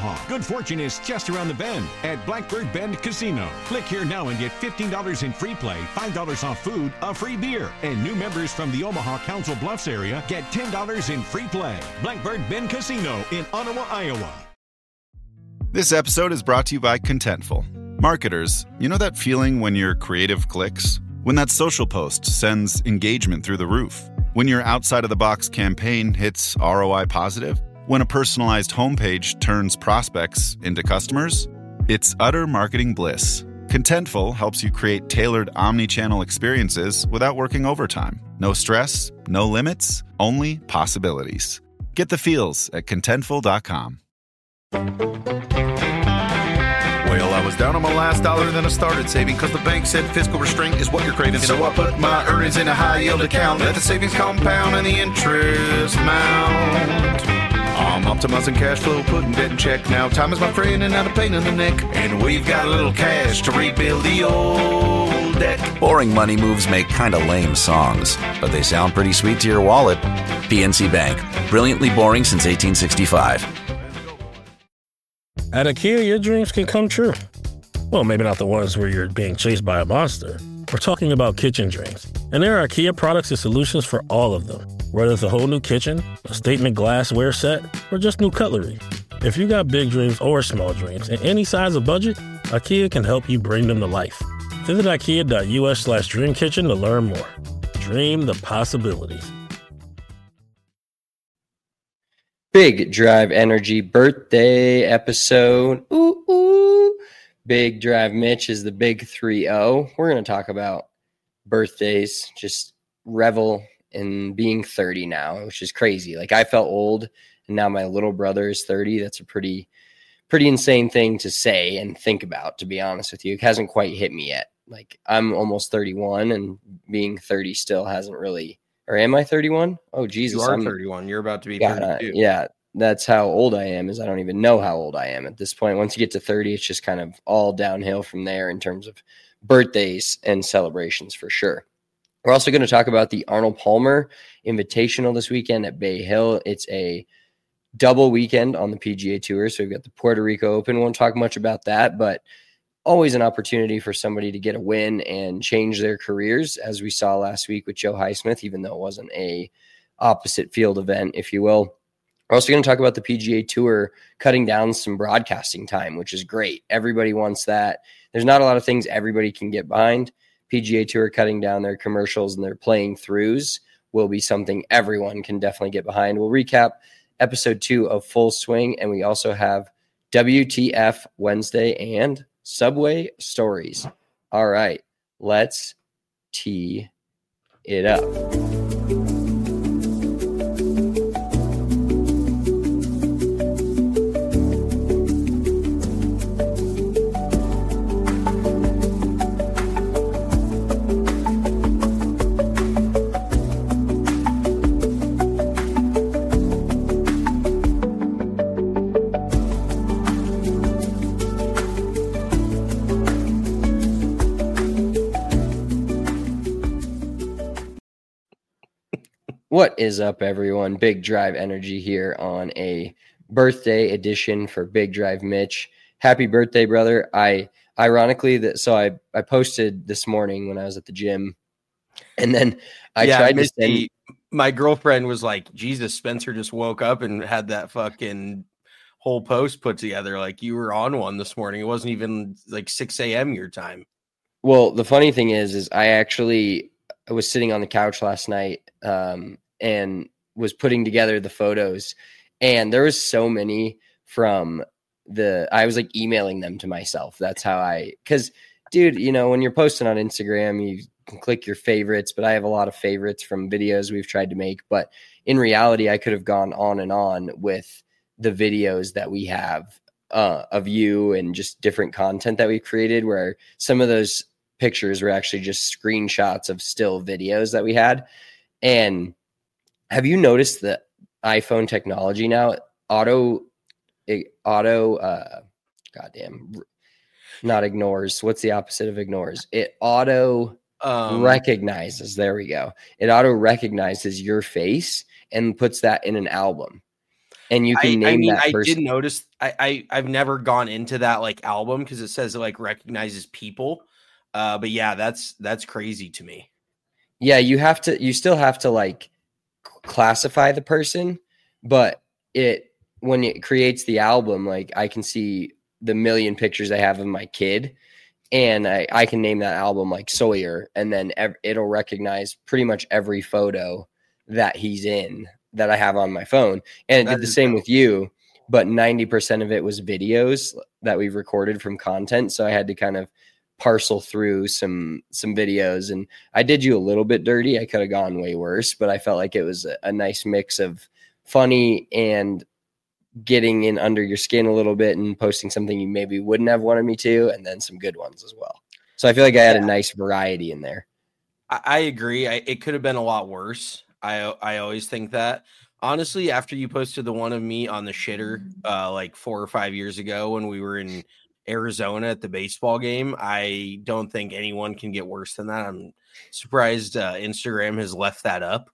Omaha. Good fortune is just around the bend at Blackbird Bend Casino. Click here now and get $15 in free play, $5 off food, a free beer. And new members from the Omaha Council Bluffs area get $10 in free play. Blackbird Bend Casino in Ottawa, Iowa. This episode is brought to you by Contentful. Marketers, you know that feeling when your creative clicks? When that social post sends engagement through the roof? When your outside-of-the-box campaign hits ROI positive? When a personalized homepage turns prospects into customers? It's utter marketing bliss. Contentful helps you create tailored omni-channel experiences without working overtime. No stress, no limits, only possibilities. Get the feels at Contentful.com. Well, I was down on my last dollar, then I started saving because the bank said fiscal restraint is what you're craving. So I put my earnings in a high-yield account. Let the savings compound and the interest mount. I'm optimizing cash flow, putting debt in check. Now time is my friend and not a pain in the neck. And we've got a little cash to rebuild the old debt. Boring money moves make kind of lame songs, but they sound pretty sweet to your wallet. PNC Bank. Brilliantly boring since 1865. At IKEA, your dreams can come true. Well, maybe not the ones where you're being chased by a monster. We're talking about kitchen dreams. And there are IKEA products and solutions for all of them. Whether it's a whole new kitchen, a statement glassware set, or just new cutlery. If you got big dreams or small dreams in any size of budget, IKEA can help you bring them to life. Visit IKEA.us/dreamkitchen to learn more. Dream the possibilities. Big Drive Energy birthday episode. Ooh, ooh. Big Drive Mitch is the big 3-0. We're going to talk about birthdays, just revel in being 30 now, which is crazy. Like, I felt old, and now my little brother is 30. That's a pretty insane thing to say and think about, to be honest with you. It hasn't quite hit me yet. Like, I'm almost 31, and being 30 still hasn't really. Or am I 31? Oh, Jesus. You are 31. You're about to be 32. Yeah, that's how old I am, is I don't even know how old I am at this point. Once you get to 30, it's just kind of all downhill from there in terms of birthdays and celebrations for sure. We're also going to talk about the Arnold Palmer Invitational this weekend at Bay Hill. It's a double weekend on the PGA Tour. So we've got the Puerto Rico Open. Won't talk much about that, but always an opportunity for somebody to get a win and change their careers, as we saw last week with Joe Highsmith, even though it wasn't a opposite field event, if you will. We're also going to talk about the PGA Tour cutting down some broadcasting time, which is great. Everybody wants that. There's not a lot of things everybody can get behind. PGA Tour cutting down their commercials and their playing throughs will be something everyone can definitely get behind. We'll recap episode 2 of Full Swing, and we also have WTF Wednesday and Subway Stories. All right, let's tee it up. What is up, everyone? Big Drive Energy here on a birthday edition for Big Drive Mitch. Happy birthday, brother. I posted this morning when I was at the gym, and then I tried to send. My girlfriend was like, Jesus, Spencer just woke up and had that fucking whole post put together. Like, you were on one this morning. It wasn't even like 6 a.m. your time. Well, the funny thing is I was sitting on the couch last night, and was putting together the photos, and there was so many I was like emailing them to myself. That's how because dude, when you're posting on Instagram, you can click your favorites, but I have a lot of favorites from videos we've tried to make. But in reality, I could have gone on and on with the videos that we have of you and just different content that we created, where some of those pictures were actually just screenshots of still videos that we had. And have you noticed the iPhone technology now? Not ignores. What's the opposite of ignores? It auto recognizes. There we go. It auto recognizes your face and puts that in an album. and you can name that person. I did notice. I've never gone into that like album because it says it like recognizes people. But yeah, that's crazy to me. Yeah, you still have to like classify the person, but when it creates the album, like I can see the million pictures I have of my kid, and I can name that album like Sawyer, and then it'll recognize pretty much every photo that he's in that I have on my phone. And it did the same with you, but 90% of it was videos that we've recorded from content. So I had to kind of parcel through some videos, and I did you a little bit dirty. I could have gone way worse, but I felt like it was a nice mix of funny and getting in under your skin a little bit and posting something you maybe wouldn't have wanted me to, and then some good ones as well. So I feel like I had a nice variety in there. I agree. It could have been a lot worse. I always think that. Honestly, after you posted the one of me on the shitter like 4 or 5 years ago when we were in Arizona at the baseball game, I don't think anyone can get worse than that. I'm surprised Instagram has left that up.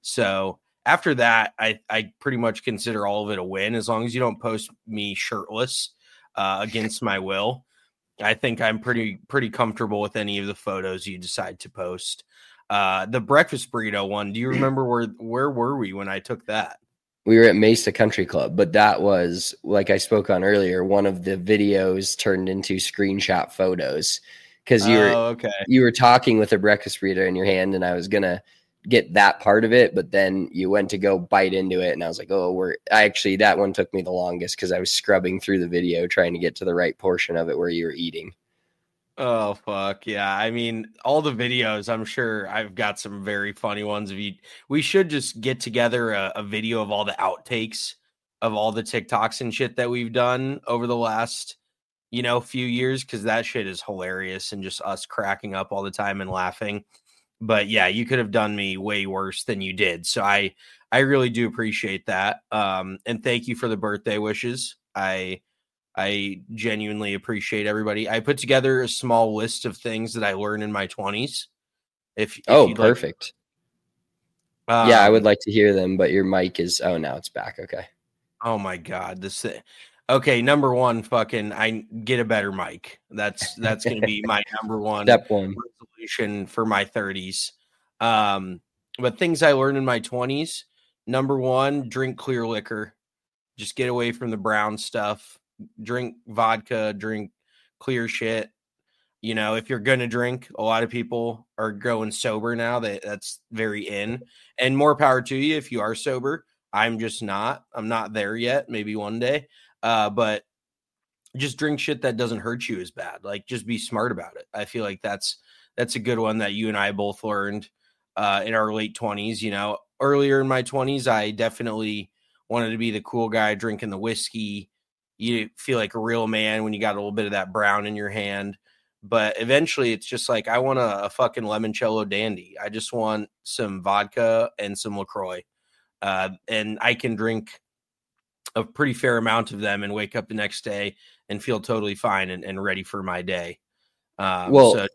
So after that, I pretty much consider all of it a win. As long as you don't post me shirtless against my will, I think I'm pretty comfortable with any of the photos you decide to post. The breakfast burrito one, do you remember where were we when I took that? We were at Mesa Country Club, but that was, like I spoke on earlier, one of the videos turned into screenshot photos because you were talking with a breakfast burrito in your hand, and I was gonna get that part of it, but then you went to go bite into it, and I was like, that one took me the longest because I was scrubbing through the video trying to get to the right portion of it where you were eating. Oh, fuck. Yeah. I mean, all the videos, I'm sure I've got some very funny ones. We should just get together a video of all the outtakes of all the TikToks and shit that we've done over the last, few years, because that shit is hilarious and just us cracking up all the time and laughing. But yeah, you could have done me way worse than you did. So I really do appreciate that. And thank you for the birthday wishes. I genuinely appreciate everybody. I put together a small list of things that I learned in my 20s. If perfect. Yeah, I would like to hear them, but your mic is, now it's back. Okay. Oh my God. Okay. Number one, I get a better mic. That's going to be my number one step one resolution for my 30s. But things I learned in my 20s, number one, drink clear liquor. Just get away from the brown stuff. Drink vodka, drink clear shit. If you're going to drink, a lot of people are going sober now. That's very in, and more power to you if you are sober. I'm just not. I'm not there yet. Maybe one day. But just drink shit that doesn't hurt you as bad. Like, just be smart about it. I feel like that's a good one that you and I both learned in our late 20s. Earlier in my 20s, I definitely wanted to be the cool guy drinking the whiskey. You feel like a real man when you got a little bit of that brown in your hand. But eventually it's just like, I want a fucking limoncello dandy. I just want some vodka and some LaCroix. And I can drink a pretty fair amount of them and wake up the next day and feel totally fine and ready for my day. So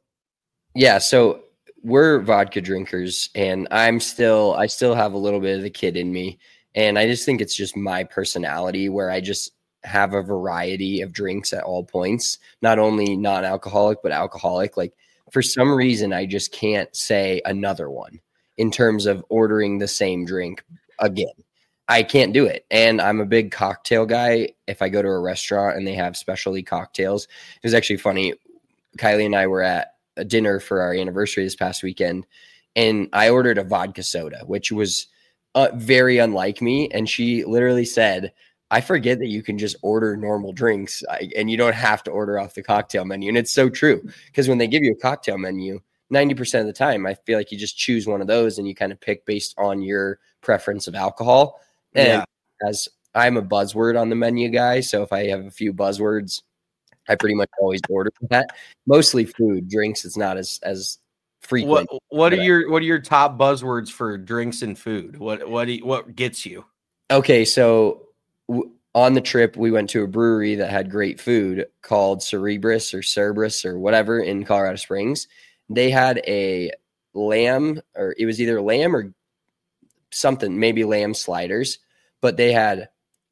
we're vodka drinkers, and I still have a little bit of the kid in me. And I just think it's just my personality where I just have a variety of drinks at all points, not only non-alcoholic, but alcoholic. Like, for some reason, I just can't say another one in terms of ordering the same drink again. I can't do it. And I'm a big cocktail guy. If I go to a restaurant and they have specialty cocktails, it was actually funny. Kylie and I were at a dinner for our anniversary this past weekend, and I ordered a vodka soda, which was very unlike me. And she literally said, I forget that you can just order normal drinks and you don't have to order off the cocktail menu. And it's so true, because when they give you a cocktail menu, 90% of the time, I feel like you just choose one of those and you kind of pick based on your preference of alcohol. And as I'm a buzzword on the menu guy, so if I have a few buzzwords, I pretty much always order that. Mostly food, drinks, it's not as frequent. What are your top buzzwords for drinks and food? What gets you? Okay, so on the trip, we went to a brewery that had great food called Cerberus or whatever in Colorado Springs. They had a lamb, or it was either lamb or something, maybe lamb sliders, but they had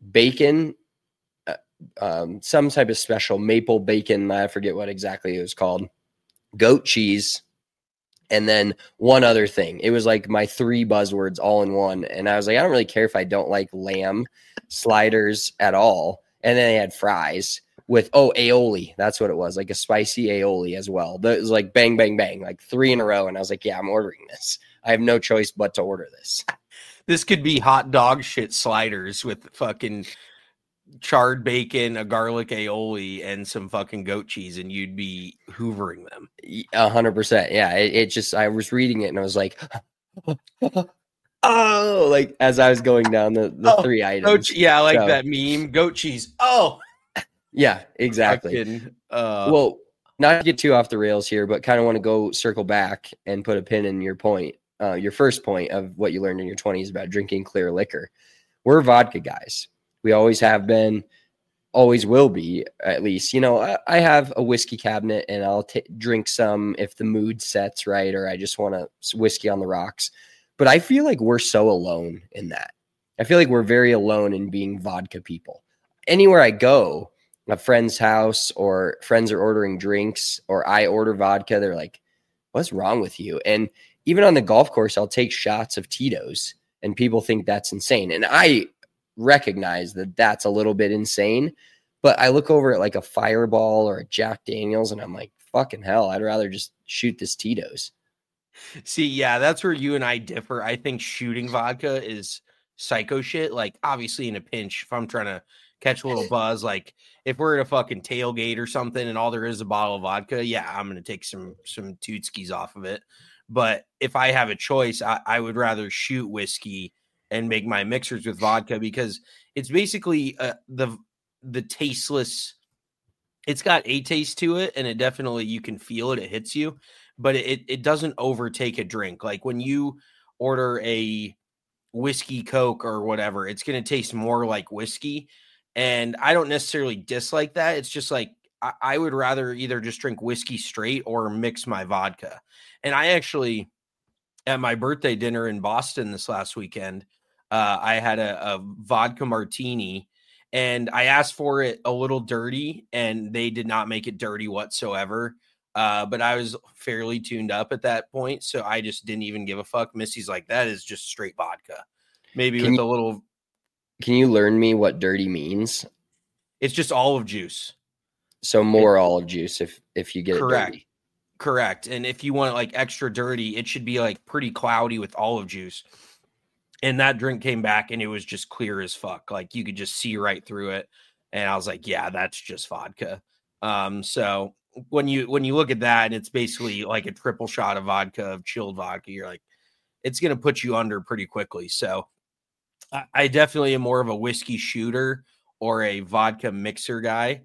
bacon, some type of special maple bacon. I forget what exactly it was called. Goat cheese. And then one other thing. It was like my 3 buzzwords all in one. And I was like, I don't really care if I don't like lamb sliders at all. And then they had fries with, aioli. That's what it was. Like a spicy aioli as well. It was like bang, bang, bang, like 3 in a row. And I was like, yeah, I'm ordering this. I have no choice but to order this. This could be hot dog shit sliders with fucking charred bacon, a garlic aioli, and some fucking goat cheese, and you'd be hoovering them. 100%. Yeah. It just, I was reading it and I was like, oh, like as I was going down the 3 items. Yeah, like that meme, goat cheese. Oh, yeah, exactly. Well, not to get too off the rails here, but kind of want to go circle back and put a pin in your point. Your first point of what you learned in your 20s about drinking clear liquor. We're vodka guys. We always have been, always will be, at least. You know, I have a whiskey cabinet and I'll drink some if the mood sets right or I just want a whiskey on the rocks. But I feel like we're so alone in that. I feel like we're very alone in being vodka people. Anywhere I go, a friend's house or friends are ordering drinks or I order vodka, they're like, what's wrong with you? And even on the golf course, I'll take shots of Tito's and people think that's insane. And I recognize that that's a little bit insane, but I look over at like a Fireball or a Jack Daniels and I'm like, fucking hell, I'd rather just shoot this Tito's. See, yeah, that's where you and I differ. I think shooting vodka is psycho shit. Like, obviously, in a pinch, if I'm trying to catch a little buzz, like if we're at a fucking tailgate or something and all there is a bottle of vodka, yeah, I'm going to take some tootskis off of it. But if I have a choice, I would rather shoot whiskey and make my mixers with vodka because it's basically the tasteless. It's got a taste to it, and it definitely, you can feel it. It hits you, but it doesn't overtake a drink. Like when you order a whiskey Coke or whatever, it's going to taste more like whiskey. And I don't necessarily dislike that. It's just like, I would rather either just drink whiskey straight or mix my vodka. And I actually, at my birthday dinner in Boston this last weekend, I had a vodka martini and I asked for it a little dirty and they did not make it dirty whatsoever. But I was fairly tuned up at that point. So I just didn't even give a fuck. Missy's like, that is just straight vodka. Maybe with a little. Can you learn me what dirty means? It's just olive juice. So more olive juice if you get it dirty. Correct. And if you want it like extra dirty, it should be like pretty cloudy with olive juice. And that drink came back and it was just clear as fuck. Like you could just see right through it. And I was like, yeah, that's just vodka. So when you look at that and it's basically like a triple shot of vodka, of chilled vodka, you're like, it's going to put you under pretty quickly. So I definitely am more of a whiskey shooter or a vodka mixer guy.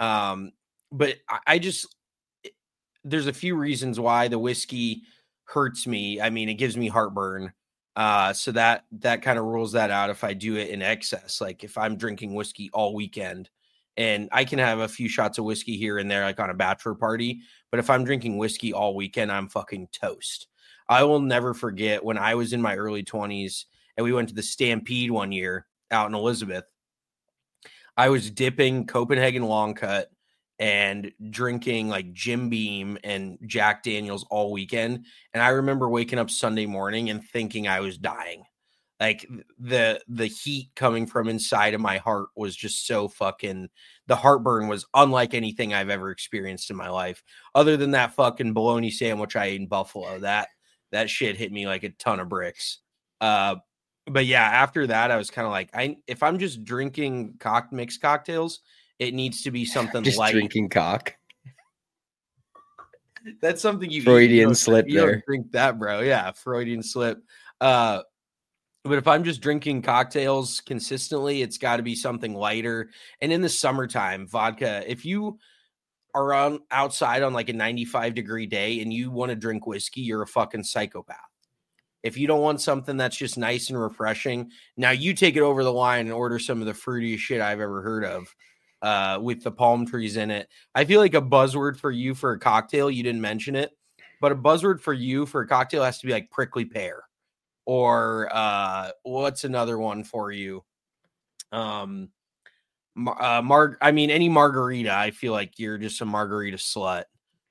But I just, there's a few reasons why the whiskey hurts me. I mean, it gives me heartburn. So that kind of rules that out if I do it in excess. Like if I'm drinking whiskey all weekend, and I can have a few shots of whiskey here and there, like on a bachelor party. But if I'm drinking whiskey all weekend, I'm fucking toast. I will never forget when I was in my early 20s and we went to the Stampede one year out in Elizabeth. I was dipping Copenhagen Long Cut and drinking like Jim Beam and Jack Daniels all weekend. And I remember waking up Sunday morning and thinking I was dying. Like the heat coming from inside of my heart was just so fucking, the heartburn was unlike anything I've ever experienced in my life. Other than that fucking bologna sandwich I ate in Buffalo, that shit hit me like a ton of bricks. But yeah, after that, I was kind of like, if I'm just drinking mixed cocktails, it needs to be something just light. Drinking cock. That's something Freudian slip you there. Don't drink that, bro. Yeah, Freudian slip. But if I'm just drinking cocktails consistently, it's got to be something lighter. And in the summertime, vodka, if you are outside on like a 95-degree day and you want to drink whiskey, you're a fucking psychopath. If you don't want something that's just nice and refreshing, now you take it over the line and order some of the fruitiest shit I've ever heard of with the palm trees in it. I feel like a buzzword for you for a cocktail, you didn't mention it, but a buzzword for you for a cocktail has to be like prickly pear. Or what's another one for you? Any margarita, I feel like you're just a margarita slut.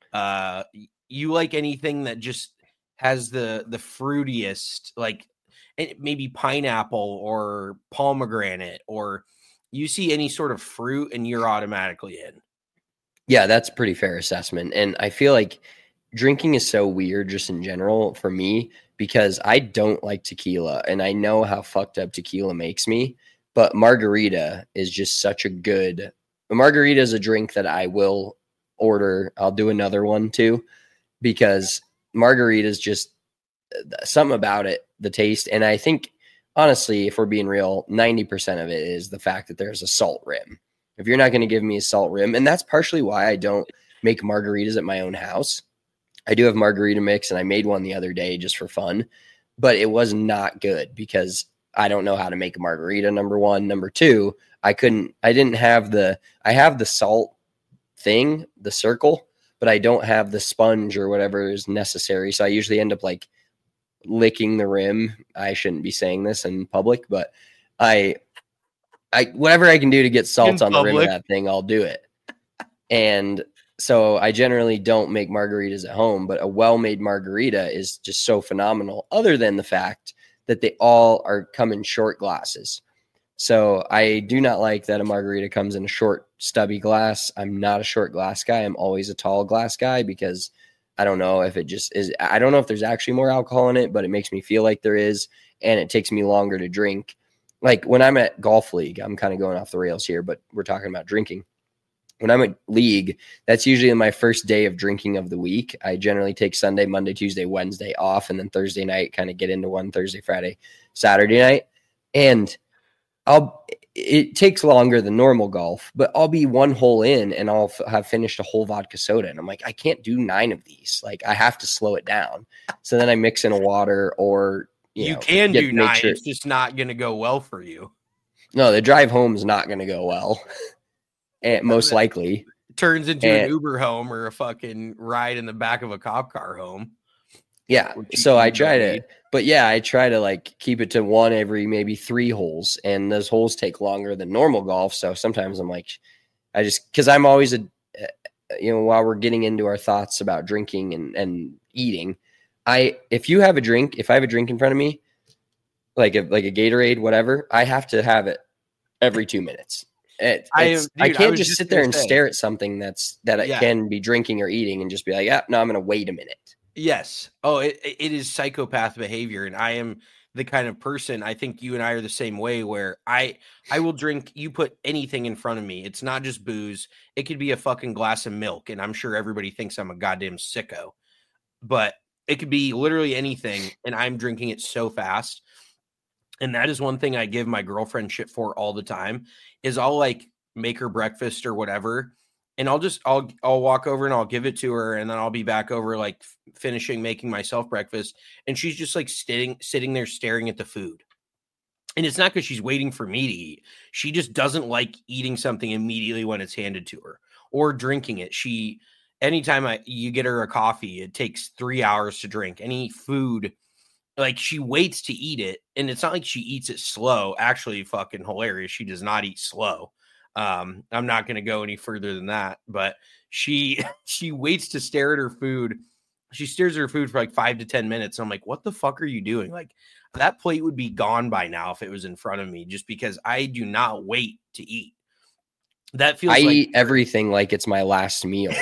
You like anything that just has the fruitiest, like maybe pineapple or pomegranate, or you see any sort of fruit and you're automatically in. Yeah, that's a pretty fair assessment. And I feel like drinking is so weird just in general for me because I don't like tequila and I know how fucked up tequila makes me, but margarita is just such a margarita is a drink that I will order. I'll do another one too, because margarita is just something about it, the taste. And I think honestly, if we're being real, 90% of it is the fact that there's a salt rim. If you're not going to give me a salt rim, and that's partially why I don't make margaritas at my own house. I do have margarita mix, and I made one the other day just for fun, but it was not good because I don't know how to make a margarita, number one. Number two, I have the salt thing, the circle, but I don't have the sponge or whatever is necessary. So I usually end up like licking the rim. I shouldn't be saying this in public, but I whatever I can do to get salt on the rim of that thing, I'll do it. And so I generally don't make margaritas at home, but a well-made margarita is just so phenomenal, other than the fact that they all come in short glasses. So I do not like that a margarita comes in a short, stubby glass. I'm not a short glass guy. I'm always a tall glass guy because I don't know if it just is. I don't know if there's actually more alcohol in it, but it makes me feel like there is, and it takes me longer to drink. Like when I'm at golf league, I'm kind of going off the rails here, but we're talking about drinking. When I'm at league, that's usually my first day of drinking of the week. I generally take Sunday, Monday, Tuesday, Wednesday off, and then Thursday night kind of get into one Thursday, Friday, Saturday night. And it takes longer than normal golf, but I'll be one hole in and I'll have finished a whole vodka soda. And I'm like, I can't do 9 of these. Like I have to slow it down. So then I mix in a water or, you can do 9. It's just not going to go well for you. No, the drive home is not going to go well. And most likely turns into an Uber home or a fucking ride in the back of a cop car home. Yeah. So I try to like keep it to one every maybe 3 holes, and those holes take longer than normal golf. So sometimes I'm like, cause I'm always while we're getting into our thoughts about drinking and eating, if I have a drink in front of me, like a Gatorade, whatever, I have to have it every 2 minutes. I can't just sit there and stare at something that I can be drinking or eating and just be like, no, I'm going to wait a minute. Yes. Oh, it is psychopath behavior. And I am the kind of person, I think you and I are the same way, where I will drink, you put anything in front of me. It's not just booze. It could be a fucking glass of milk. And I'm sure everybody thinks I'm a goddamn sicko, but it could be literally anything. And I'm drinking it so fast. And that is one thing I give my girlfriend shit for all the time is I'll like make her breakfast or whatever. And I'll walk over and I'll give it to her. And then I'll be back over like finishing making myself breakfast. And she's just like sitting there staring at the food. And it's not because she's waiting for me to eat. She just doesn't like eating something immediately when it's handed to her or drinking it. Anytime you get her a coffee, it takes 3 hours to drink any food. Like she waits to eat it, and it's not like she eats it slow. Actually, fucking hilarious. She does not eat slow. I'm not going to go any further than that, but she waits to stare at her food. She stares at her food for like 5 to 10 minutes. And I'm like, what the fuck are you doing? Like that plate would be gone by now if it was in front of me, just because I do not wait to eat. That feels. I eat everything like it's my last meal.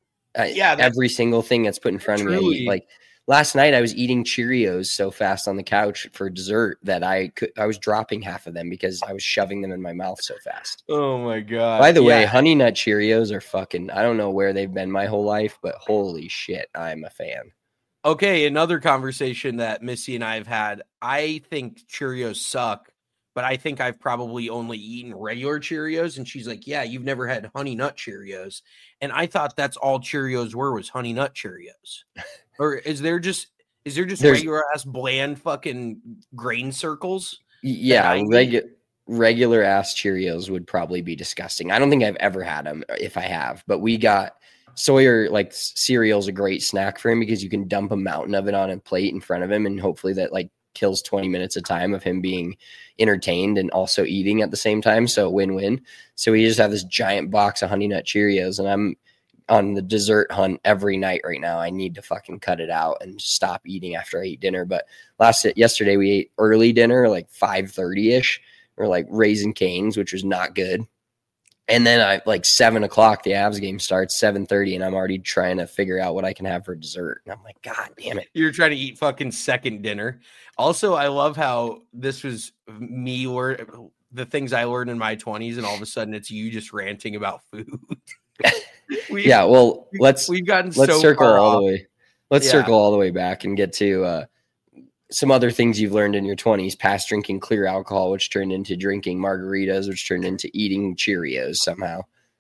Every single thing that's put in front of me. I eat. Like last night, I was eating Cheerios so fast on the couch for dessert that I was dropping half of them because I was shoving them in my mouth so fast. Oh my God. By the way, Honey Nut Cheerios are fucking, I don't know where they've been my whole life, but holy shit, I'm a fan. Okay, another conversation that Missy and I have had. I think Cheerios suck, but I think I've probably only eaten regular Cheerios. And she's like, yeah, you've never had Honey Nut Cheerios. And I thought that's all Cheerios was Honey Nut Cheerios. Or is there just regular ass bland fucking grain circles? Yeah, regular ass Cheerios would probably be disgusting. I don't think I've ever had them, if I have, but we got Sawyer, cereal's a great snack for him because you can dump a mountain of it on a plate in front of him, and hopefully that kills 20 minutes of time of him being entertained and also eating at the same time. So win-win. So we just have this giant box of Honey Nut Cheerios, and I'm on the dessert hunt every night right now. I need to fucking cut it out and stop eating after I eat dinner. But yesterday we ate early dinner, like 5:30ish, or like Raising Cane's, which was not good. And then I like 7 o'clock, the Avs game starts 7:30, and I'm already trying to figure out what I can have for dessert. And I'm like, God damn it. You're trying to eat fucking second dinner. Also, I love how this was me or the things I learned in my 20s, and all of a sudden it's you just ranting about food. Let's circle all the way. Let's circle all the way back and get to some other things you've learned in your 20s, past drinking clear alcohol, which turned into drinking margaritas, which turned into eating Cheerios somehow.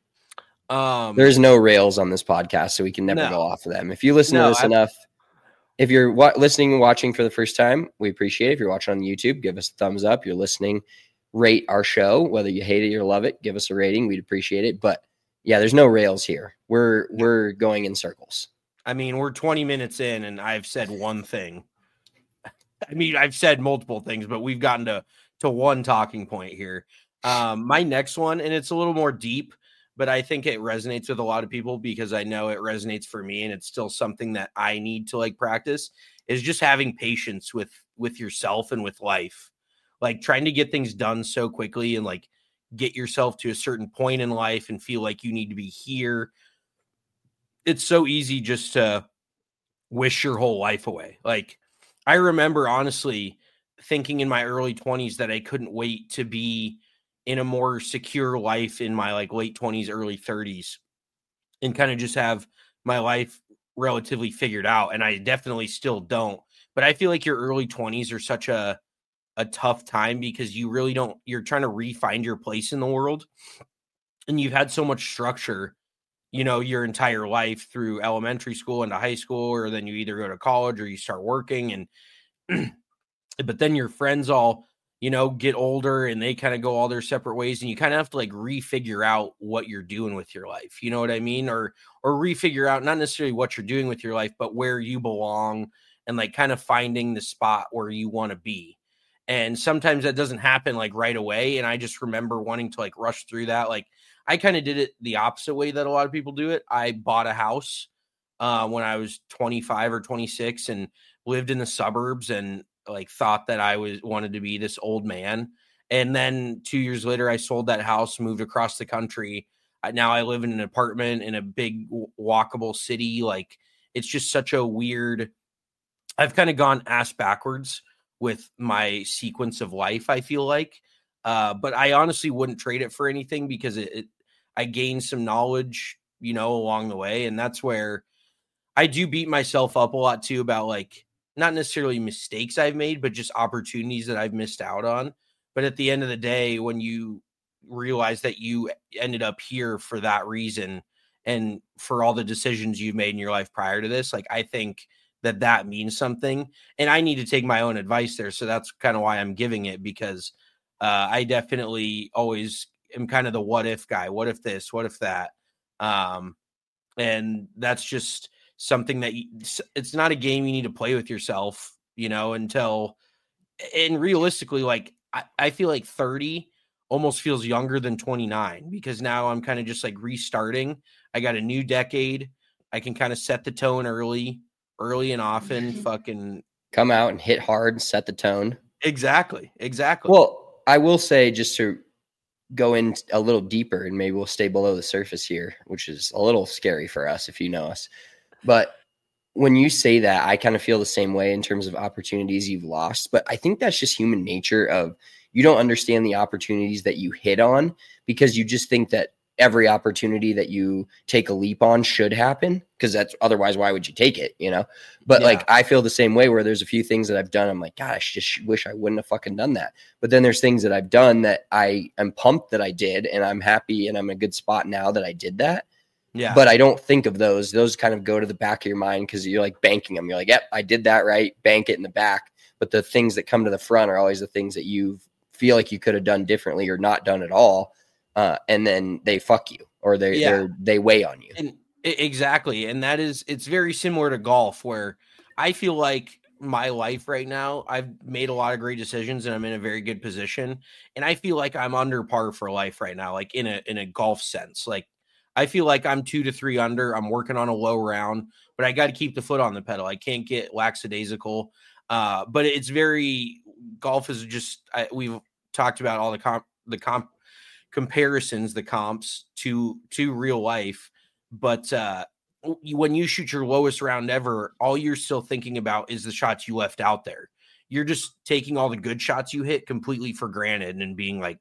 There's no rails on this podcast, so we can never go off of them. If you listen to this enough, if you're listening and watching for the first time, we appreciate it. If you're watching on YouTube, give us a thumbs up. You're listening, rate our show, whether you hate it or love it, give us a rating. We'd appreciate it. But yeah, there's no rails here. We're going in circles. I mean, we're 20 minutes in, and I've said one thing. I mean, I've said multiple things, but we've gotten to one talking point here. My next one, and it's a little more deep, but I think it resonates with a lot of people because I know it resonates for me, and it's still something that I need to like practice, is just having patience with yourself and with life. Like trying to get things done so quickly and like get yourself to a certain point in life and feel like you need to be here. It's so easy just to wish your whole life away. Like I remember honestly thinking in my early 20s that I couldn't wait to be in a more secure life in my like late 20s, early 30s, and kind of just have my life relatively figured out. And I definitely still don't, but I feel like your early 20s are such a tough time because you really don't, you're trying to re-find your place in the world, and you've had so much structure, you know, your entire life through elementary school into high school, or then you either go to college or you start working, and but then your friends all, you know, get older and they kind of go all their separate ways, and you kind of have to like refigure out what you're doing with your life. You know what I mean? Or refigure out not necessarily what you're doing with your life, but where you belong, and like kind of finding the spot where you want to be. And sometimes that doesn't happen like right away. And I just remember wanting to like rush through that. Like I kind of did it the opposite way that a lot of people do it. I bought a house when I was 25 or 26 and lived in the suburbs, and like thought that I wanted to be this old man. And then 2 years later, I sold that house, moved across the country. Now I live in an apartment in a big walkable city. Like it's just such a weird, I've kind of gone ass backwards with my sequence of life, I feel like. But I honestly wouldn't trade it for anything because I gained some knowledge, you know, along the way. And that's where I do beat myself up a lot too about like, not necessarily mistakes I've made, but just opportunities that I've missed out on. But at the end of the day, when you realize that you ended up here for that reason and for all the decisions you've made in your life prior to this, like I think that means something. And I need to take my own advice there. So that's kind of why I'm giving it, because I definitely always am kind of the what if guy. What if this? What if that? And that's just something that it's not a game you need to play with yourself, you know, and realistically, like I feel like 30 almost feels younger than 29 because now I'm kind of just like restarting. I got a new decade. I can kind of set the tone early and often, fucking come out and hit hard, set the tone. Exactly. Well, I will say, just to go in a little deeper, and maybe we'll stay below the surface here, which is a little scary for us if you know us. But when you say that, I kind of feel the same way in terms of opportunities you've lost. But I think that's just human nature of you don't understand the opportunities that you hit on because you just think that every opportunity that you take a leap on should happen, because that's otherwise, why would you take it, you know? But like, I feel the same way where there's a few things that I've done. I'm like, gosh, just wish I wouldn't have fucking done that. But then there's things that I've done that I am pumped that I did, and I'm happy and I'm in a good spot now that I did that. Yeah. But I don't think of those. Those kind of go to the back of your mind because you're like banking them. You're like, yep, I did that right. Bank it in the back. But the things that come to the front are always the things that you feel like you could have done differently or not done at all. And then they fuck you, or they weigh on you. And exactly. And it's very similar to golf, where I feel like my life right now, I've made a lot of great decisions and I'm in a very good position. And I feel like I'm under par for life right now, like in a golf sense. Like I feel like I'm 2 to 3 under. I'm working on a low round, but I got to keep the foot on the pedal. I can't get lackadaisical. But it's very golf is just we've talked about all the comparisons, the comps to real life. But when you shoot your lowest round ever, all you're still thinking about is the shots you left out there. You're just taking all the good shots you hit completely for granted and being like,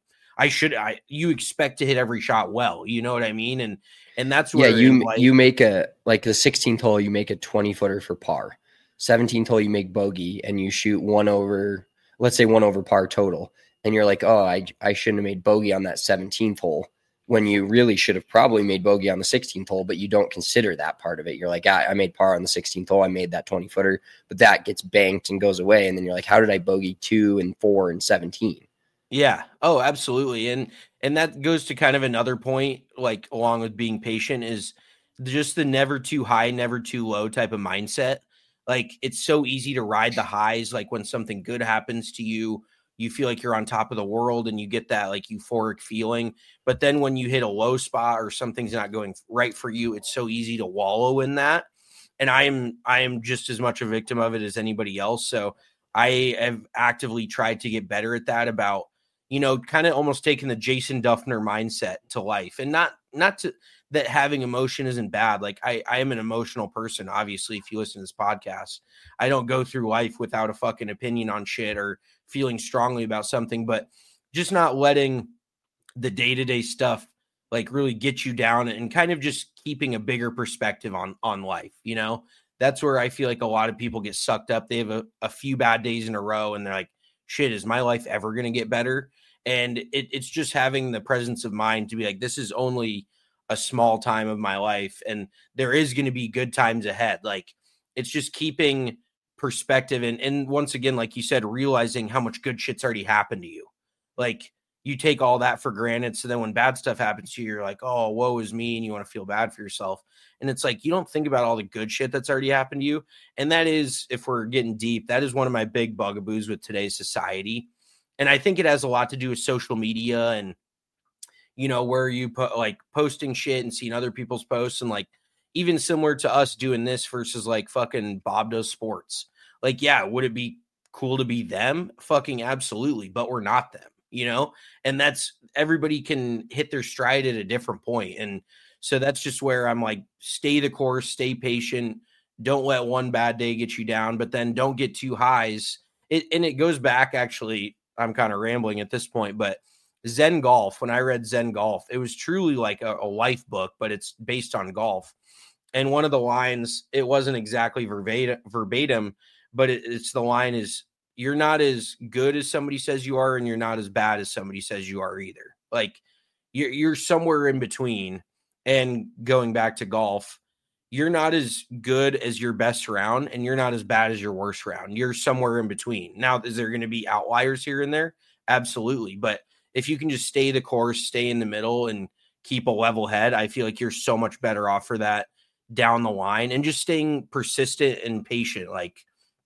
you expect to hit every shot well, you know what I mean? And that's where you make the 16th hole, you make a 20-footer for par. 17th hole, you make bogey and you shoot 1 over, let's say 1 over par total. And you're like, oh, I shouldn't have made bogey on that 17th hole, when you really should have probably made bogey on the 16th hole, but you don't consider that part of it. You're like, I made par on the 16th hole. I made that 20-footer, but that gets banked and goes away. And then you're like, how did I bogey 2 and 4 and 17? Yeah. Oh, absolutely. And that goes to kind of another point, like along with being patient, is just the never too high, never too low type of mindset. Like it's so easy to ride the highs. Like when something good happens to you, you feel like you're on top of the world and you get that like euphoric feeling. But then when you hit a low spot or something's not going right for you, it's so easy to wallow in that. And I am just as much a victim of it as anybody else. So I have actively tried to get better at that, about, you know, kind of almost taking the Jason Duffner mindset to life, and not to that having emotion isn't bad. Like I am an emotional person. Obviously, if you listen to this podcast, I don't go through life without a fucking opinion on shit or feeling strongly about something, but just not letting the day-to-day stuff like really get you down and kind of just keeping a bigger perspective on life. You know, that's where I feel like a lot of people get sucked up. They have a few bad days in a row and they're like, shit, is my life ever going to get better? And it's just having the presence of mind to be like, this is only a small time of my life and there is going to be good times ahead. Like it's just keeping perspective. And once again, like you said, realizing how much good shit's already happened to you. Like you take all that for granted. So then when bad stuff happens to you, you're like, oh, woe is me. And you want to feel bad for yourself. And it's like, you don't think about all the good shit that's already happened to you. And that is, if we're getting deep, that is one of my big bugaboos with today's society. And I think it has a lot to do with social media and, you know, where you put like posting shit and seeing other people's posts, and like even similar to us doing this versus like fucking Bob Does Sports. Like, yeah, would it be cool to be them? Fucking absolutely. But we're not them, you know? And that's, everybody can hit their stride at a different point. And so that's just where I'm like, stay the course, stay patient. Don't let one bad day get you down, but then don't get too highs. And it goes back, actually, I'm kind of rambling at this point, but Zen Golf, when I read Zen Golf, it was truly like a life book, but it's based on golf. And one of the lines, it wasn't exactly verbatim, but it's the line is, you're not as good as somebody says you are, and you're not as bad as somebody says you are either. Like you're somewhere in between. And going back to golf, you're not as good as your best round, and you're not as bad as your worst round. You're somewhere in between. Now, is there going to be outliers here and there? Absolutely. But if you can just stay the course, stay in the middle, and keep a level head, I feel like you're so much better off for that down the line. And just staying persistent and patient. Like,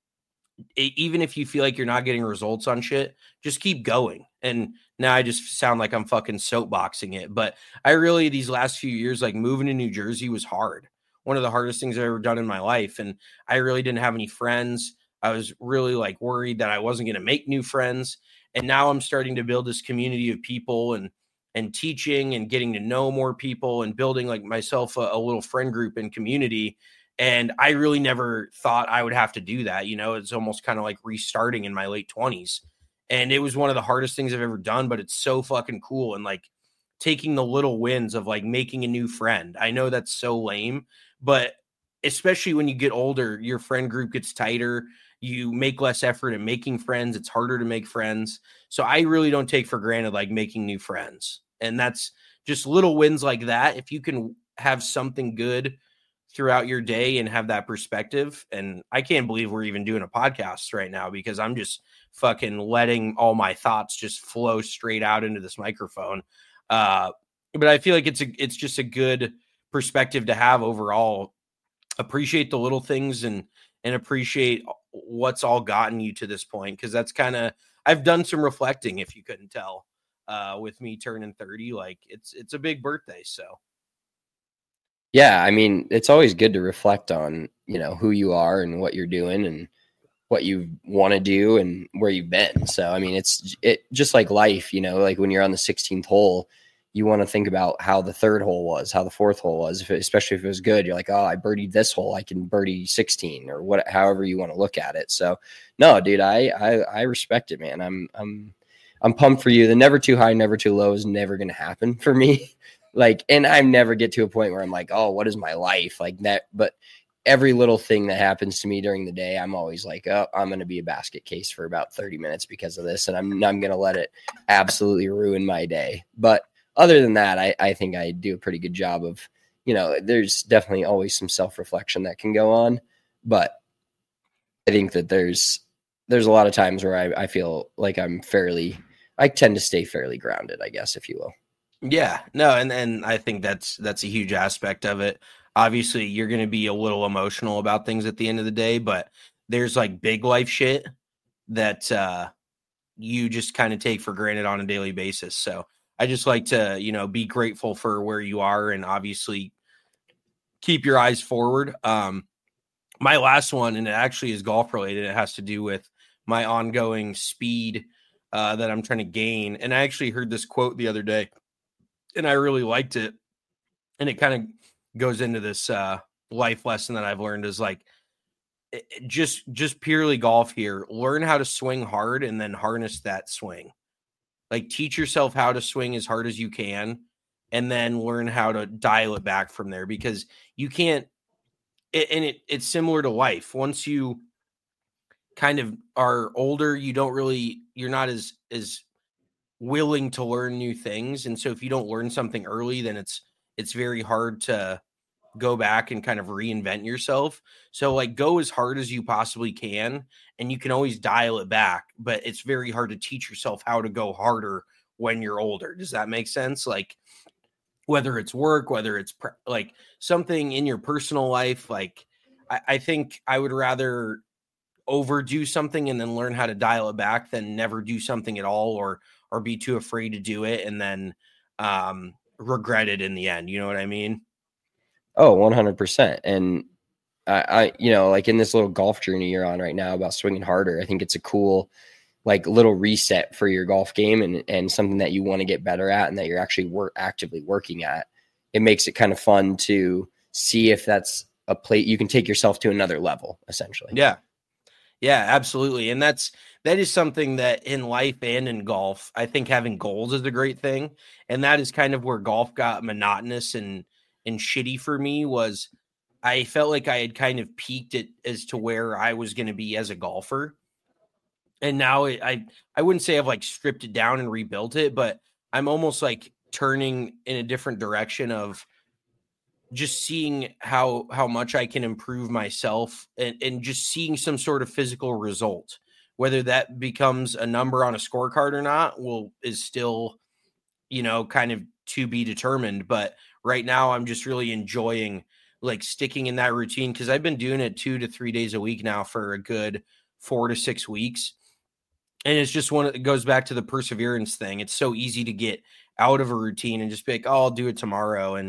even if you feel like you're not getting results on shit, just keep going. And now I just sound like I'm fucking soapboxing it. But I really, these last few years, like moving to New Jersey was hard. One of the hardest things I've ever done in my life. And I really didn't have any friends. I was really like worried that I wasn't going to make new friends. And now I'm starting to build this community of people and teaching and getting to know more people and building like myself a little friend group and community. And I really never thought I would have to do that. You know, it's almost kind of like restarting in my late 20s. And it was one of the hardest things I've ever done, but it's so fucking cool. And like taking the little wins of like making a new friend. I know that's so lame, but especially when you get older, your friend group gets tighter. You make less effort at making friends. It's harder to make friends. So I really don't take for granted like making new friends. And that's just little wins like that. If you can have something good throughout your day and have that perspective. And I can't believe we're even doing a podcast right now, because I'm just fucking letting all my thoughts just flow straight out into this microphone. But I feel like it's just a good perspective to have overall. Appreciate the little things and and appreciate what's all gotten you to this point. Because that's kind of, I've done some reflecting, if you couldn't tell, with me turning 30. Like it's a big birthday. So yeah, I mean, it's always good to reflect on, who you are and what you're doing and what you want to do and where you've been. So, I mean, it just like life, like when you're on the 16th hole, you want to think about how the third hole was, how the fourth hole was, especially if it was good. You're like, oh, I birdied this hole, I can birdie 16 or however you want to look at it. So no, dude, I respect it, man. I'm pumped for you. The never too high, never too low is never going to happen for me. Like, and I never get to a point where I'm like, oh, what is my life like that? But every little thing that happens to me during the day, I'm always like, oh, I'm going to be a basket case for about 30 minutes because of this. And I'm going to let it absolutely ruin my day. But other than that, I think I do a pretty good job of, there's definitely always some self-reflection that can go on. But I think that there's a lot of times where I feel like I tend to stay fairly grounded, I guess, if you will. Yeah, no. And I think that's a huge aspect of it. Obviously, you're going to be a little emotional about things at the end of the day, but there's like big life shit that you just kind of take for granted on a daily basis. So I just like to, be grateful for where you are and obviously keep your eyes forward. My last one, and it actually is golf related. It has to do with my ongoing speed that I'm trying to gain. And I actually heard this quote the other day and I really liked it. And it kind of goes into this life lesson that I've learned is like, just purely golf here. Learn how to swing hard and then harness that swing. Like teach yourself how to swing as hard as you can and then learn how to dial it back from there, because you can't, it's similar to life. Once you kind of are older, you're not as willing to learn new things. And so if you don't learn something early, then it's very hard to go back and kind of reinvent yourself. So like go as hard as you possibly can, and you can always dial it back, but it's very hard to teach yourself how to go harder when you're older. Does that make sense? Like whether it's work, whether it's like something in your personal life, like I think I would rather overdo something and then learn how to dial it back than never do something at all or be too afraid to do it and then regret it in the end. You know what I mean? Oh, 100%. And I like in this little golf journey you're on right now about swinging harder, I think it's a cool, like little reset for your golf game and something that you want to get better at and that you're actually actively working at. It makes it kind of fun to see if that's a plate you can take yourself to another level, essentially. Yeah. Yeah, absolutely. And that is something that in life and in golf, I think having goals is a great thing. And that is kind of where golf got monotonous and shitty for me. Was I felt like I had kind of peaked it as to where I was going to be as a golfer. And now I wouldn't say I've like stripped it down and rebuilt it, but I'm almost like turning in a different direction of just seeing how much I can improve myself and just seeing some sort of physical result. Whether that becomes a number on a scorecard or not is still, kind of to be determined. But right now I'm just really enjoying like sticking in that routine, because I've been doing it 2 to 3 days a week now for a good 4 to 6 weeks. And it's just it goes back to the perseverance thing. It's so easy to get out of a routine and just be like, oh, I'll do it tomorrow.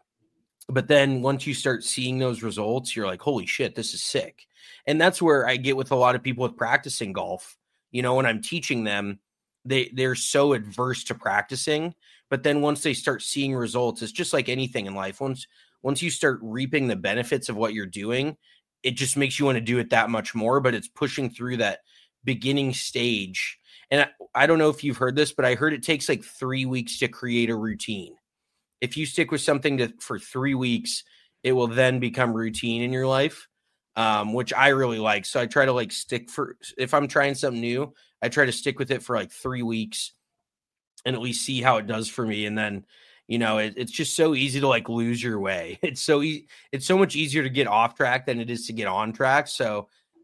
But then once you start seeing those results, you're like, holy shit, this is sick. And that's where I get with a lot of people with practicing golf. When I'm teaching them, they're so adverse to practicing. But then once they start seeing results, it's just like anything in life. Once you start reaping the benefits of what you're doing, it just makes you want to do it that much more. But it's pushing through that beginning stage. And I don't know if you've heard this, but I heard it takes like 3 weeks to create a routine. If you stick with something for 3 weeks, it will then become routine in your life, which I really like. So I try to like if I'm trying something new, I try to stick with it for like 3 weeks and at least see how it does for me. And then, it's just so easy to like lose your way. It's so much easier to get off track than it is to get on track. So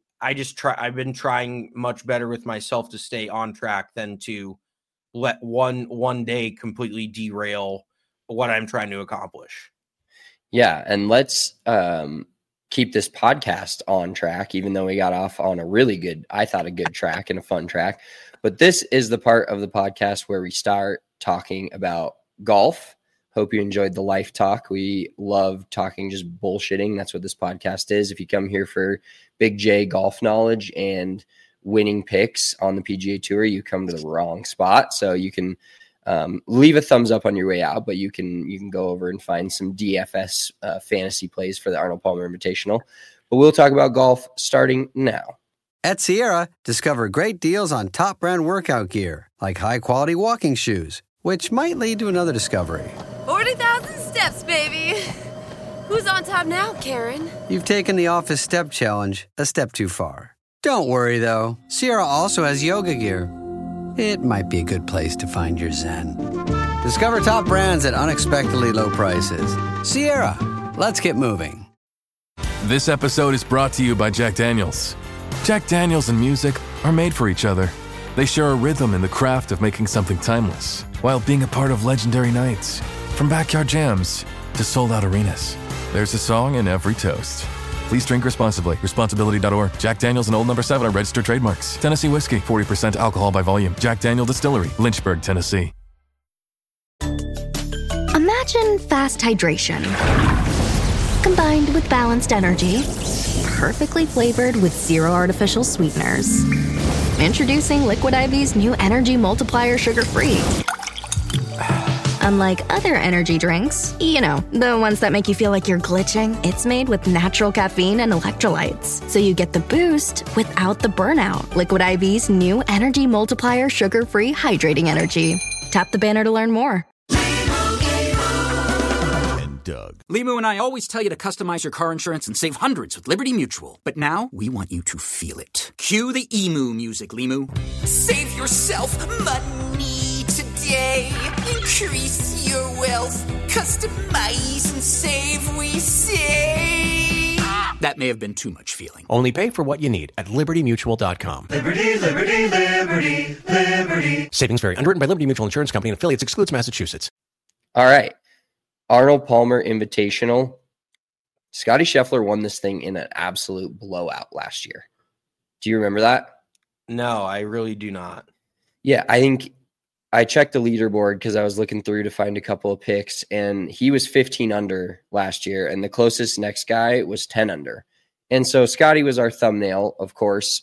I've been trying much better with myself to stay on track than to let one day completely derail what I'm trying to accomplish. Yeah. And let's, can keep this podcast on track, even though we got off on a really good, I thought a good track and a fun track. But this is the part of the podcast where we start talking about golf. Hope you enjoyed the life talk. We love talking just bullshitting. That's what this podcast is. If you come here for Big J golf knowledge and winning picks on the PGA Tour, you come to the wrong spot. So you can leave a thumbs up on your way out, but you can go over and find some DFS fantasy plays for the Arnold Palmer Invitational. But we'll talk about golf starting now. At Sierra, discover great deals on top brand workout gear, like high-quality walking shoes, which might lead to another discovery. 40,000 steps, baby. Who's on top now, Karen? You've taken the office step challenge a step too far. Don't worry, though. Sierra also has yoga gear. It might be a good place to find your zen. Discover top brands at unexpectedly low prices. Sierra, let's get moving. This episode is brought to you by Jack Daniels. Jack Daniels and music are made for each other. They share a rhythm in the craft of making something timeless, while being a part of legendary nights. From backyard jams to sold-out arenas, there's a song in every toast. Please drink responsibly. Responsibility.org. Jack Daniels and Old No. 7 are registered trademarks. Tennessee whiskey, 40% alcohol by volume. Jack Daniel Distillery, Lynchburg, Tennessee. Imagine fast hydration combined with balanced energy, perfectly flavored with zero artificial sweeteners. Introducing Liquid IV's new Energy Multiplier Sugar-Free. Unlike other energy drinks, you know, the ones that make you feel like you're glitching, it's made with natural caffeine and electrolytes, so you get the boost without the burnout. Liquid IV's new Energy Multiplier Sugar-Free Hydrating Energy. Tap the banner to learn more. Doug. Limu and I always tell you to customize your car insurance and save hundreds with Liberty Mutual. But now, we want you to feel it. Cue the emu music, Limu. Save yourself money today. Increase your wealth. Customize and save, we say. That may have been too much feeling. Only pay for what you need at LibertyMutual.com. Liberty, liberty, liberty, liberty. Savings vary. Underwritten by Liberty Mutual Insurance Company and affiliates. Excludes Massachusetts. All right. Arnold Palmer Invitational. Scotty Scheffler won this thing in an absolute blowout last year. Do you remember that? No, I really do not. Yeah, I think I checked the leaderboard because I was looking through to find a couple of picks, and he was 15 under last year, and the closest next guy was 10 under. And so Scotty was our thumbnail, of course.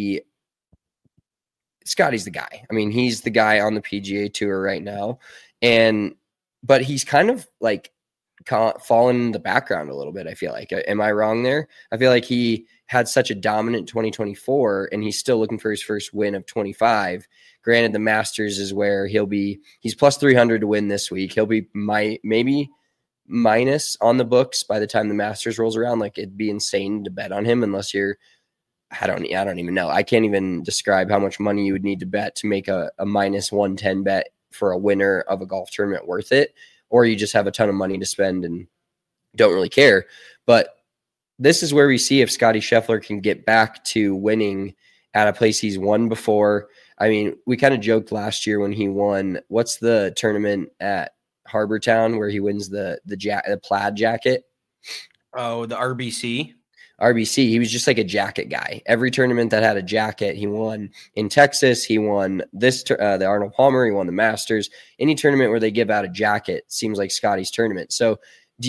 Scotty's the guy. I mean, he's the guy on the PGA Tour right now, but he's kind of like fallen in the background a little bit, I feel like. Am I wrong there? I feel like he had such a dominant 2024, and he's still looking for his first win of 25. Granted, the Masters is where he's plus 300 to win this week. He'll be maybe minus on the books by the time the Masters rolls around. Like, it'd be insane to bet on him unless I don't even know. I can't even describe how much money you would need to bet to make a minus 110 bet for a winner of a golf tournament worth it, or you just have a ton of money to spend and don't really care. But this is where we see if Scotty Scheffler can get back to winning at a place he's won before. I mean, we kind of joked last year when he won, what's the tournament at Harbor Town where he wins the plaid jacket? Oh, the RBC. He was just like a jacket guy. Every tournament that had a jacket, he won. In Texas, he won the Arnold Palmer. He won the Masters. Any tournament where they give out a jacket seems like Scotty's tournament. So,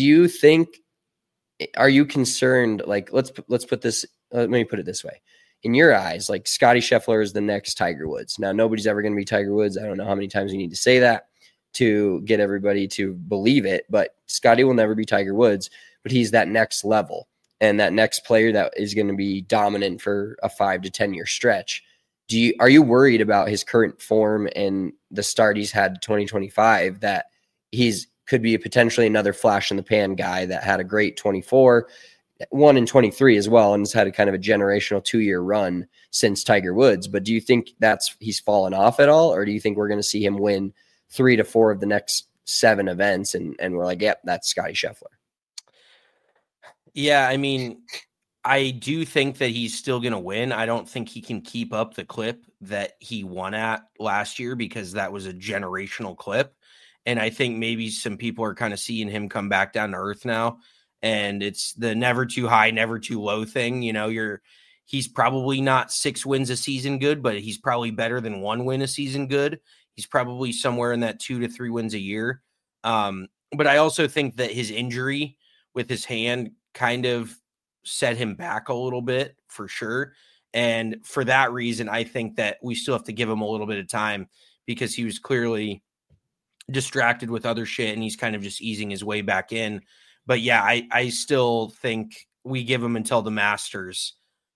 are you concerned? Like, let's put this. Let me put it this way: in your eyes, like Scotty Scheffler is the next Tiger Woods. Now, nobody's ever going to be Tiger Woods. I don't know how many times you need to say that to get everybody to believe it, but Scotty will never be Tiger Woods. But he's that next level. And that next player that is going to be dominant for a 5 to 10 year stretch. Are you worried about his current form and the start he's had 2025 that could be potentially another flash in the pan guy that had a great 24, won in 23 as well, and has had a kind of a generational 2-year run since Tiger Woods? But do you think he's fallen off at all, or do you think we're going to see him win 3 to 4 of the next 7 events and we're like, yep, that's Scotty Scheffler? Yeah, I mean, I do think that he's still going to win. I don't think he can keep up the clip that he won at last year because that was a generational clip. And I think maybe some people are kind of seeing him come back down to earth now And it's the never too high, never too low thing. He's probably not 6 wins a season good, but he's probably better than 1 win a season good. He's probably somewhere in that 2 to 3 wins a year. But I also think that his injury with his hand kind of set him back a little bit for sure. And for that reason, I think that we still have to give him a little bit of time because he was clearly distracted with other shit and he's kind of just easing his way back in. But yeah, I still think we give him until the Masters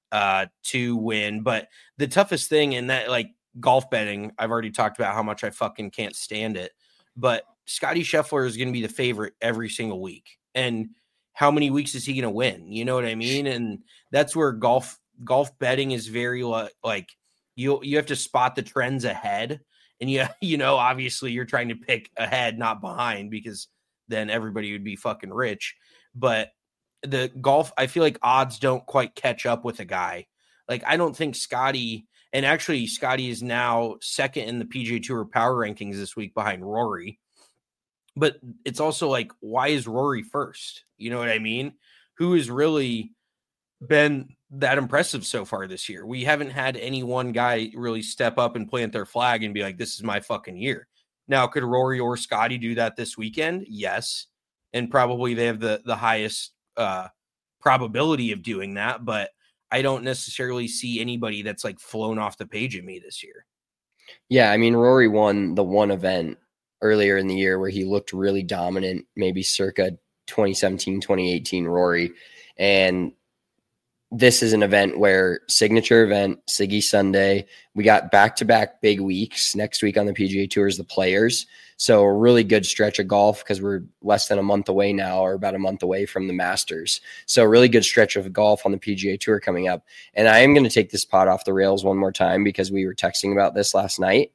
to win. But the toughest thing in that, like golf betting, I've already talked about how much I fucking can't stand it. But Scottie Scheffler is going to be the favorite every single week. And how many weeks is he going to win? You know what I mean? And that's where golf betting is very like you have to spot the trends ahead. And obviously you're trying to pick ahead, not behind, because then everybody would be fucking rich. But the golf, I feel like odds don't quite catch up with a guy. Like, I don't think Scottie, and actually Scottie is now second in the PGA Tour power rankings this week behind Rory. But it's also like, why is Rory first? You know what I mean? Who has really been that impressive so far this year? We haven't had any one guy really step up and plant their flag and be like, this is my fucking year. Now, could Rory or Scottie do that this weekend? Yes. And probably they have the highest probability of doing that. But I don't necessarily see anybody that's like flown off the page at me this year. Yeah, I mean, Rory won the one event earlier in the year where he looked really dominant, maybe circa 2017, 2018 Rory. And this is an event where signature event, Siggy Sunday. We got back-to-back big weeks. Next week on the PGA Tour is the Players. So a really good stretch of golf because we're less than a month away now, or about a month away from the Masters. So a really good stretch of golf on the PGA Tour coming up. And I am going to take this pod off the rails one more time because we were texting about this last night.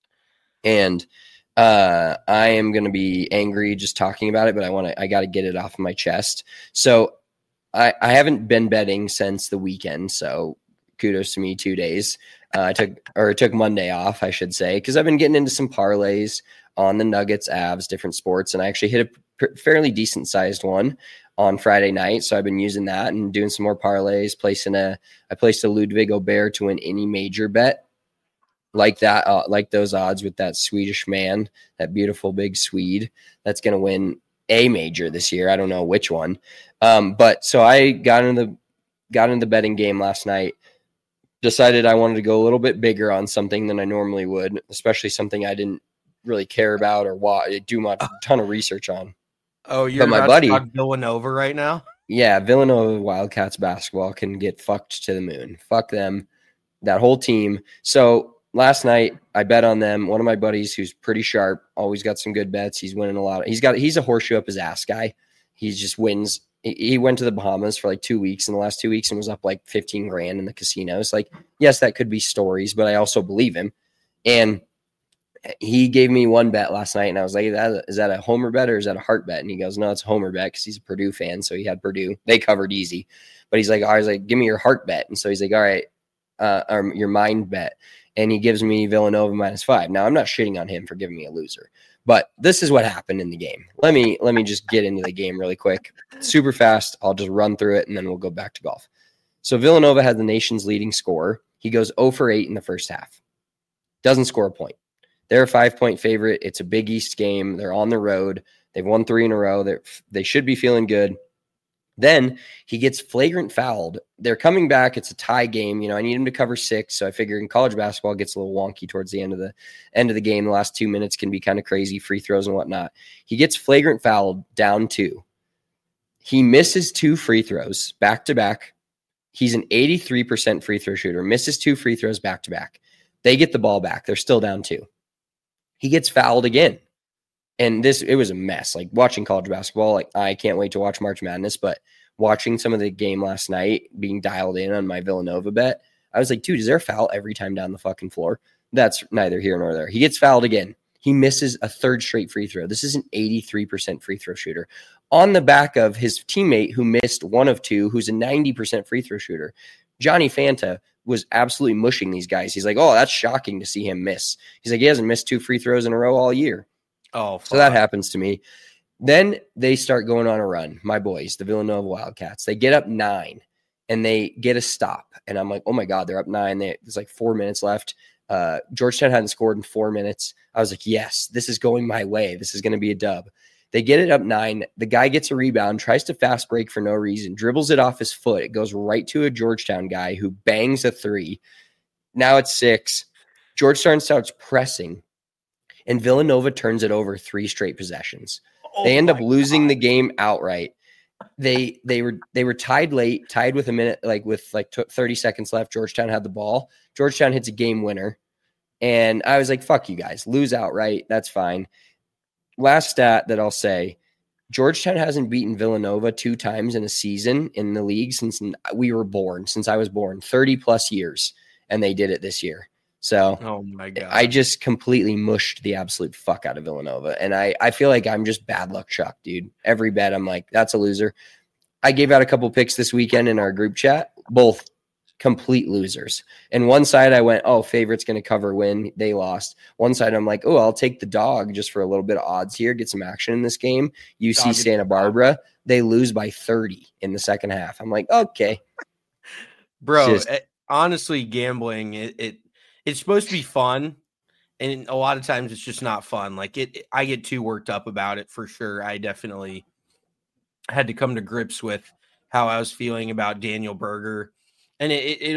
And I am going to be angry just talking about it, but I got to get it off of my chest. So I haven't been betting since the weekend, so kudos to me. 2 days. I took Monday off, I should say, because I've been getting into some parlays on the Nuggets, Avs, different sports, and I actually hit a fairly decent sized one on Friday night. So I've been using that and doing some more parlays. I placed a Ludwig Gobert to win any major bet like that, like those odds with that Swedish man, that beautiful big Swede that's going to win a major this year. I don't know which one. But so I got into the betting game last night, decided I wanted to go a little bit bigger on something than I normally would, especially something I didn't really care about or do a ton of research on. Oh, you're my buddy Villanova right now? Yeah, Villanova Wildcats basketball can get fucked to the moon. Fuck them, that whole team. So last night I bet on them. One of my buddies who's pretty sharp, always got some good bets. He's winning a lot. He's a horseshoe up his ass guy. He just wins. He went to the Bahamas for like 2 weeks in the last 2 weeks and was up like 15 grand in the casinos. Like, yes, that could be stories, but I also believe him. And he gave me one bet last night and I was like, is that a homer bet or is that a heart bet? And he goes, no, it's a homer bet because he's a Purdue fan. So he had Purdue. They covered easy. But he's like, I was like, give me your heart bet. And so he's like, all right, or your mind bet. And he gives me Villanova -5. Now, I'm not shitting on him for giving me a loser, but this is what happened in the game. Let me just get into the game really quick, super fast. I'll just run through it, and then we'll go back to golf. So Villanova had the nation's leading scorer. He goes 0 for 8 in the first half. Doesn't score a point. They're a 5-point favorite. It's a Big East game. They're on the road. They've won 3 in a row. They should be feeling good. Then he gets flagrant fouled. They're coming back. It's a tie game. I need him to cover 6. So I figure in college basketball, it gets a little wonky towards the end of the game. The last 2 minutes can be kind of crazy, free throws and whatnot. He gets flagrant fouled, down 2. He misses 2 free throws back to back. He's an 83% free throw shooter, misses 2 free throws back to back. They get the ball back. They're still down 2. He gets fouled again. And it was a mess. Like watching college basketball, like I can't wait to watch March Madness, but watching some of the game last night, being dialed in on my Villanova bet, I was like, dude, is there a foul every time down the fucking floor? That's neither here nor there. He gets fouled again. He misses a 3rd straight free throw. This is an 83% free throw shooter on the back of his teammate who missed 1 of 2, who's a 90% free throw shooter. Johnny Fanta was absolutely mushing these guys. He's like, oh, that's shocking to see him miss. He's like, he hasn't missed 2 free throws in a row all year. Oh, fuck. So that happens to me. Then they start going on a run. My boys, the Villanova Wildcats, they get up 9 and they get a stop. And I'm like, oh my God, they're up 9. There's like 4 minutes left. Georgetown hadn't scored in 4 minutes. I was like, yes, this is going my way. This is going to be a dub. They get it up 9. The guy gets a rebound, tries to fast break for no reason, dribbles it off his foot. It goes right to a Georgetown guy who bangs a 3. Now it's 6. Georgetown starts pressing, and Villanova turns it over 3 straight possessions. They end up losing the game outright. They were tied late, tied with a minute, with 30 seconds left. Georgetown had the ball. Georgetown hits a game winner. And I was like, fuck you guys, lose outright. That's fine. Last stat that I'll say, Georgetown hasn't beaten Villanova 2 times in a season in the league since I was born, 30 plus years. And they did it this year. So oh my God, I just completely mushed the absolute fuck out of Villanova. And I feel like I'm just bad luck Chuck, dude. Every bet I'm like, that's a loser. I gave out a couple picks this weekend in our group chat, both complete losers. And one side I went, oh, favorite's going to cover win. They lost. One side I'm like, oh, I'll take the dog just for a little bit of odds here, get some action in this game. UC Santa Barbara, they lose by 30 in the second half. I'm like, okay. Bro, honestly, gambling, it's supposed to be fun. And a lot of times it's just not fun. I get too worked up about it for sure. I definitely had to come to grips with how I was feeling about Daniel Berger. And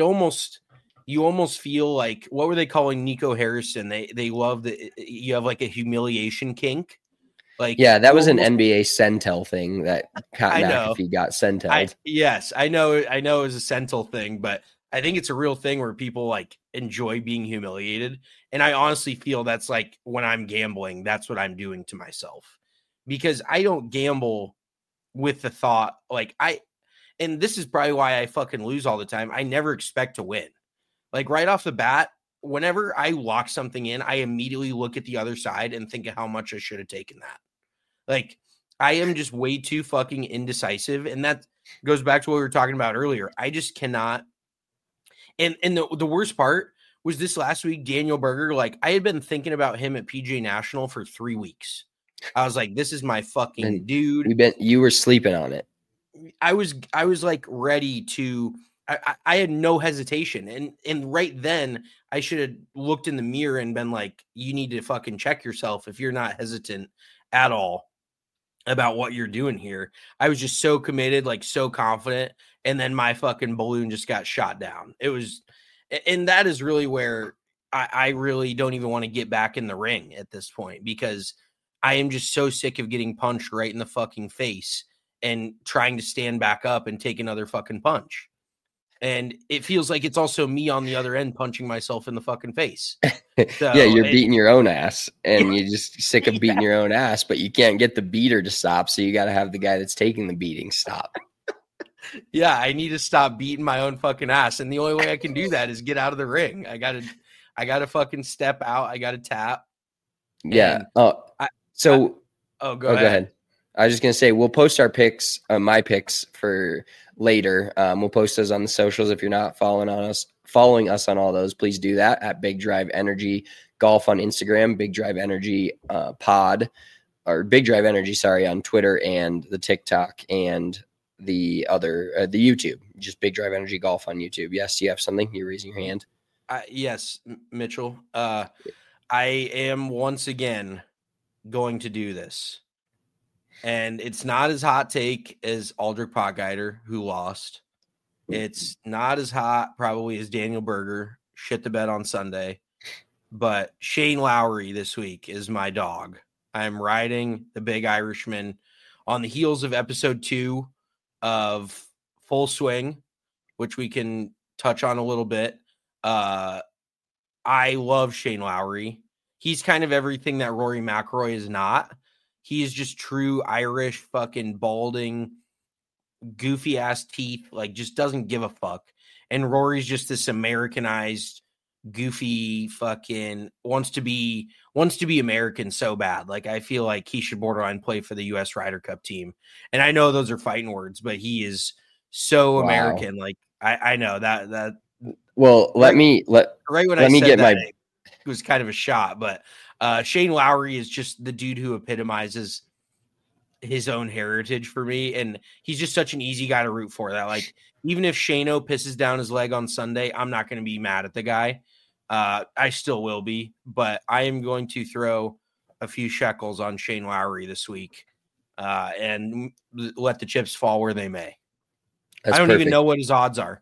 you almost feel like, what were they calling Nico Harrison? They love that you have like a humiliation kink. That was an NBA Centel thing that McAfee got Centelled. Yes, I know it was a Centel thing, but I think it's a real thing where people enjoy being humiliated. And I honestly feel that's when I'm gambling, that's what I'm doing to myself, because I don't gamble with the thought and this is probably why I fucking lose all the time. I never expect to win. Right off the bat, whenever I lock something in, I immediately look at the other side and think of how much I should have taken that. I am just way too fucking indecisive. And that goes back to what we were talking about earlier. I just cannot. And the worst part was this last week, Daniel Berger, I had been thinking about him at PGA National for 3 weeks. I was like, this is my fucking dude. You were sleeping on it. I was ready to, I had no hesitation. And right then I should have looked in the mirror and been like, you need to fucking check yourself if you're not hesitant at all about what you're doing here. I was just so committed, so confident. And then my fucking balloon just got shot down. And that is really where I really don't even want to get back in the ring at this point, because I am just so sick of getting punched right in the fucking face and trying to stand back up and take another fucking punch. And it feels like it's also me on the other end punching myself in the fucking face. So, yeah, you're beating your own ass, and you're just sick of beating your own ass, but you can't get the beater to stop, so you got to have the guy that's taking the beating stop. Yeah, I need to stop beating my own fucking ass, and the only way I can do that is get out of the ring. I gotta fucking step out. I gotta tap. Yeah. Go ahead. I was just gonna say we'll post our picks, my picks for later. We'll post those on the socials. If you're not following us on all those, please do that at Big Drive Energy Golf on Instagram, Big Drive Energy Pod, or Big Drive Energy, sorry, on Twitter and the TikTok and the other the YouTube. Just Big Drive Energy Golf on YouTube. Yes, you have something? You're raising your hand. Yes, Mitchell. I am once again going to do this. And it's not as hot take as Aldrich Potgieter, who lost. It's not as hot probably as Daniel Berger, shit the bed on Sunday. But Shane Lowry this week is my dog. I'm riding the Big Irishman on the heels of episode 2 of Full Swing, which we can touch on a little bit. I love Shane Lowry. He's kind of everything that Rory McIlroy is not. He is just true Irish, fucking balding, goofy ass teeth, just doesn't give a fuck. And Rory's just this Americanized, goofy fucking wants to be American so bad. I feel like he should borderline play for the US Ryder Cup team. And I know those are fighting words, but he is so American. I know that. Well, let me get my. It was kind of a shot, but Shane Lowry is just the dude who epitomizes his own heritage for me. And he's just such an easy guy to root for that. Like, even if Shano pisses down his leg on Sunday, I'm not going to be mad at the guy. I still will be, but I am going to throw a few shekels on Shane Lowry this week and let the chips fall where they may. That's I don't perfect. even know what his odds are.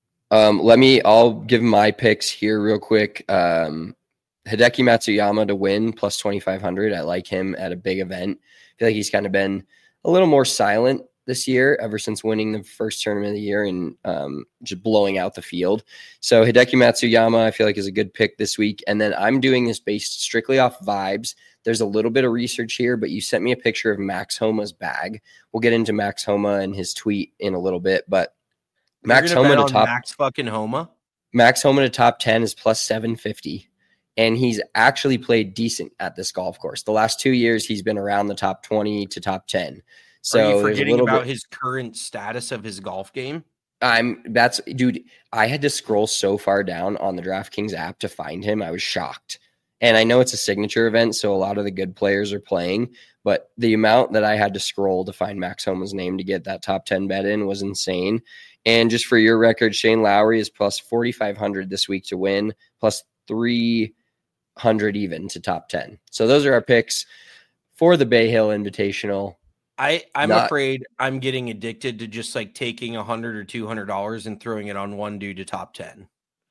I'll give my picks here real quick. Hideki Matsuyama to win plus 2,500. I like him at a big event. I feel like he's kind of been a little more silent this year ever since winning the first tournament of the year and just blowing out the field. So Hideki Matsuyama, I feel like, is a good pick this week. And then I'm doing this based strictly off vibes. There's a little bit of research here, but you sent me a picture of Max Homa's bag. We'll get into Max Homa and his tweet in a little bit, but Max Homa to top Max fucking Homa. Max Homa to top 10 is plus 750. And he's actually played decent at this golf course. The last 2 years, he's been around the top 20 to top 10. So are you forgetting about his current status of his golf game? Dude, I had to scroll so far down on the DraftKings app to find him. I was shocked. And I know it's a signature event, so a lot of the good players are playing, but the amount that I had to scroll to find Max Homa's name to get that top 10 bet in was insane. And just for your record, Shane Lowry is plus 4,500 this week to win, plus 300 even to top 10. So those are our picks for the Bay Hill Invitational. I'm afraid I'm getting addicted to just like taking $100 or $200 and throwing it on one dude to top 10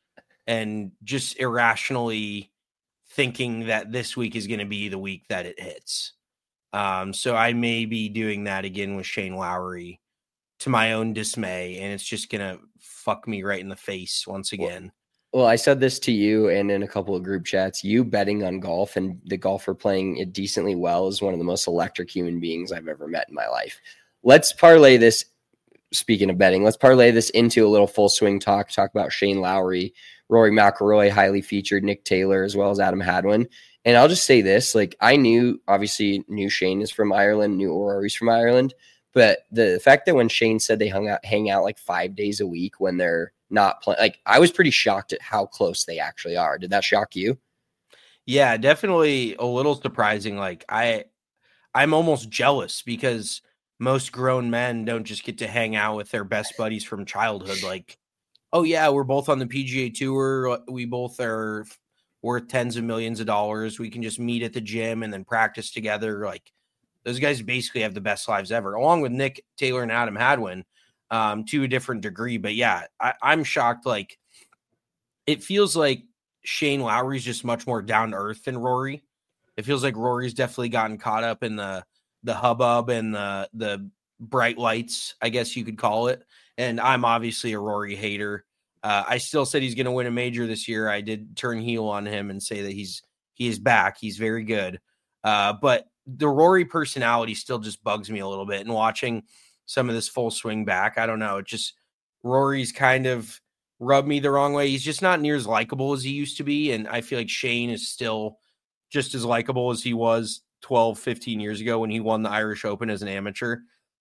and just irrationally thinking that this week is going to be the week that it hits. So I may be doing that again with Shane Lowry to my own dismay, and it's just going to fuck me right in the face once again. Well, I said this to you and in a couple of group chats. You betting on golf and the golfer playing it decently well is one of the most electric human beings I've ever met in my life. Let's parlay this. Speaking of betting, let's parlay this into a little full swing talk about Shane Lowry, Rory McIlroy, highly featured, Nick Taylor, as well as Adam Hadwin. And I'll just say this, like, I obviously knew Shane is from Ireland, knew Rory's from Ireland, but the fact that when Shane said they hang out like 5 days a week when they're not playing, like, I was pretty shocked at how close they actually are. Did that shock you? Yeah, definitely a little surprising. Like, I'm almost jealous because most grown men don't just get to hang out with their best buddies from childhood. Like, oh yeah, we're both on the PGA Tour. We both are worth tens of millions of dollars. We can just meet at the gym and then practice together. Like, those guys basically have the best lives ever, along with Nick Taylor and Adam Hadwin, to a different degree. But yeah, I'm shocked. Like, it feels like Shane Lowry's just much more down to earth than Rory. It feels like Rory's definitely gotten caught up in the hubbub and the bright lights, I guess you could call it. And I'm obviously a Rory hater. I still said he's going to win a major this year. I did turn heel on him and say that he is back. He's very good. But the Rory personality still just bugs me a little bit. And watching some of this full swing back, I don't know. It just, Rory's kind of rubbed me the wrong way. He's just not near as likable as he used to be. And I feel like Shane is still just as likable as he was 12, 15 years ago when he won the Irish Open as an amateur.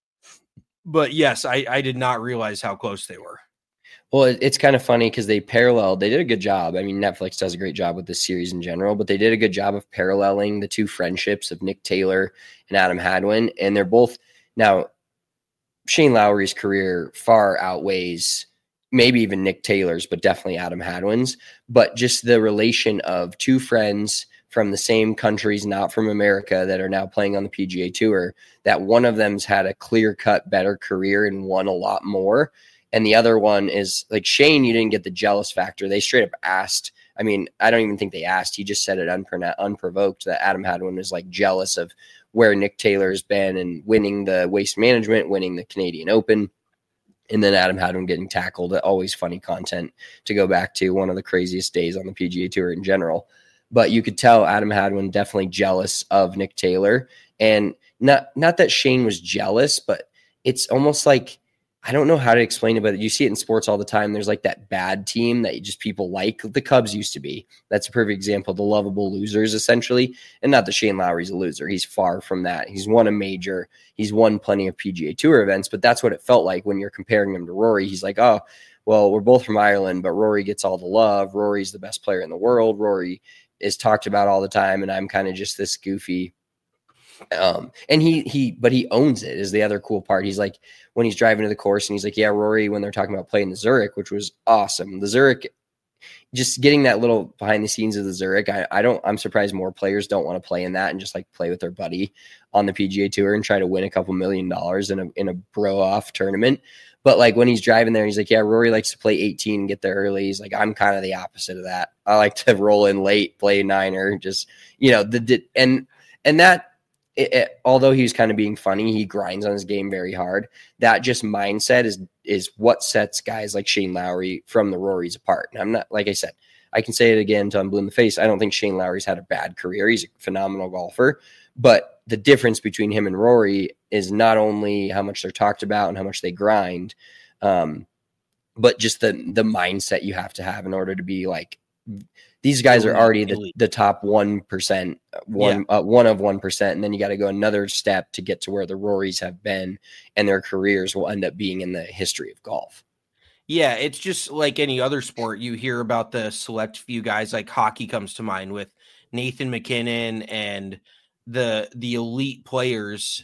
But yes, I did not realize how close they were. Well, it's kind of funny because they did a good job. I mean, Netflix does a great job with this series in general, but they did a good job of paralleling the two friendships of Nick Taylor and Adam Hadwin. And they're both, now, Shane Lowry's career far outweighs maybe even Nick Taylor's, but definitely Adam Hadwin's. But just the relation of two friends from the same countries, not from America, that are now playing on the PGA Tour, that one of them's had a clear-cut better career and won a lot more. And the other one is, like, Shane, you didn't get the jealous factor. They straight up asked. I mean, I don't even think they asked. He just said it unprovoked that Adam Hadwin was, like, jealous of where Nick Taylor's been and winning the Waste Management, winning the Canadian Open. And then Adam Hadwin getting tackled. Always funny content to go back to, one of the craziest days on the PGA Tour in general. But you could tell Adam Hadwin definitely jealous of Nick Taylor. And not that Shane was jealous, but it's almost like, I don't know how to explain it, but you see it in sports all the time. There's like that bad team that just people like. The Cubs used to be. That's a perfect example. The lovable losers, essentially. And not that Shane Lowry's a loser. He's far from that. He's won a major. He's won plenty of PGA Tour events, but that's what it felt like when you're comparing him to Rory. He's like, oh, well, we're both from Ireland, but Rory gets all the love. Rory's the best player in the world. Rory is talked about all the time, and I'm kind of just this goofy And he owns it is the other cool part. He's like, when he's driving to the course and he's like, yeah, Rory, when they're talking about playing the Zurich, which was awesome. The Zurich, just getting that little behind the scenes of the Zurich. I'm surprised more players don't want to play in that and just like play with their buddy on the PGA Tour and try to win a couple $1 million in a bro off tournament. But like when he's driving there, he's like, yeah, Rory likes to play 18 and get there early. He's like, I'm kind of the opposite of that. I like to roll in late, play niner, just, and that, although he was kind of being funny, he grinds on his game very hard. That just mindset is what sets guys like Shane Lowry from the Rorys apart. And I'm not, like I said, I can say it again until I'm blue in the face. I don't think Shane Lowry's had a bad career. He's a phenomenal golfer. But the difference between him and Rory is not only how much they're talked about and how much they grind, but just the mindset you have to have in order to be like, these guys are already the top 1%, one of 1%. And then you got to go another step to get to where the Rorys have been, and their careers will end up being in the history of golf. Yeah, it's just like any other sport. You hear about the select few guys, like hockey comes to mind with Nathan McKinnon and the elite players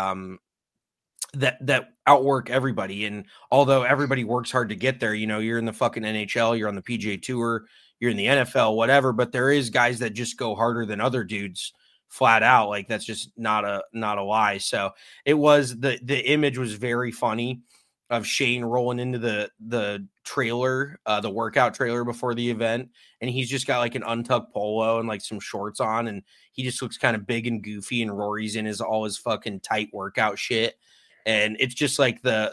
that outwork everybody. And although everybody works hard to get there, you're in the fucking NHL, you're on the PGA Tour, you're in the NFL, whatever, but there is guys that just go harder than other dudes flat out. Like that's just not a lie. So it was the image was very funny of Shane rolling into the trailer, the workout trailer before the event. And he's just got like an untucked polo and like some shorts on. And he just looks kind of big and goofy, and Rory's in all his fucking tight workout shit. And it's just like the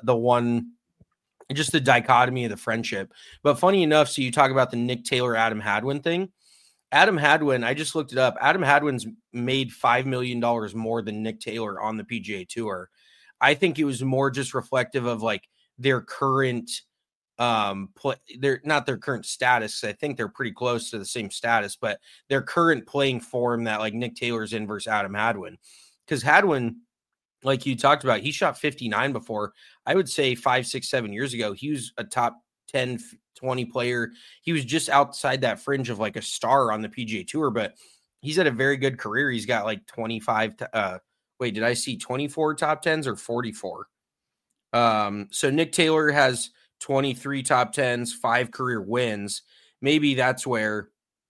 dichotomy of the friendship. But funny enough, so you talk about the Nick Taylor, Adam Hadwin thing. Adam Hadwin, I just looked it up. Adam Hadwin's made $5 million more than Nick Taylor on the PGA Tour. I think it was more just reflective of like their current they're not their current status. I think they're pretty close to the same status, but their current playing form that like Nick Taylor's in versus Adam Hadwin. Because Hadwin, like you talked about, he shot 59 before. I would say 5, 6, 7 years ago, he was a top 10, 20 player. He was just outside that fringe of like a star on the PGA Tour, but he's had a very good career. He's got like 25. Did I see 24 top 10s or 44? So Nick Taylor has 23 top 10s, 5 career wins. Maybe that's where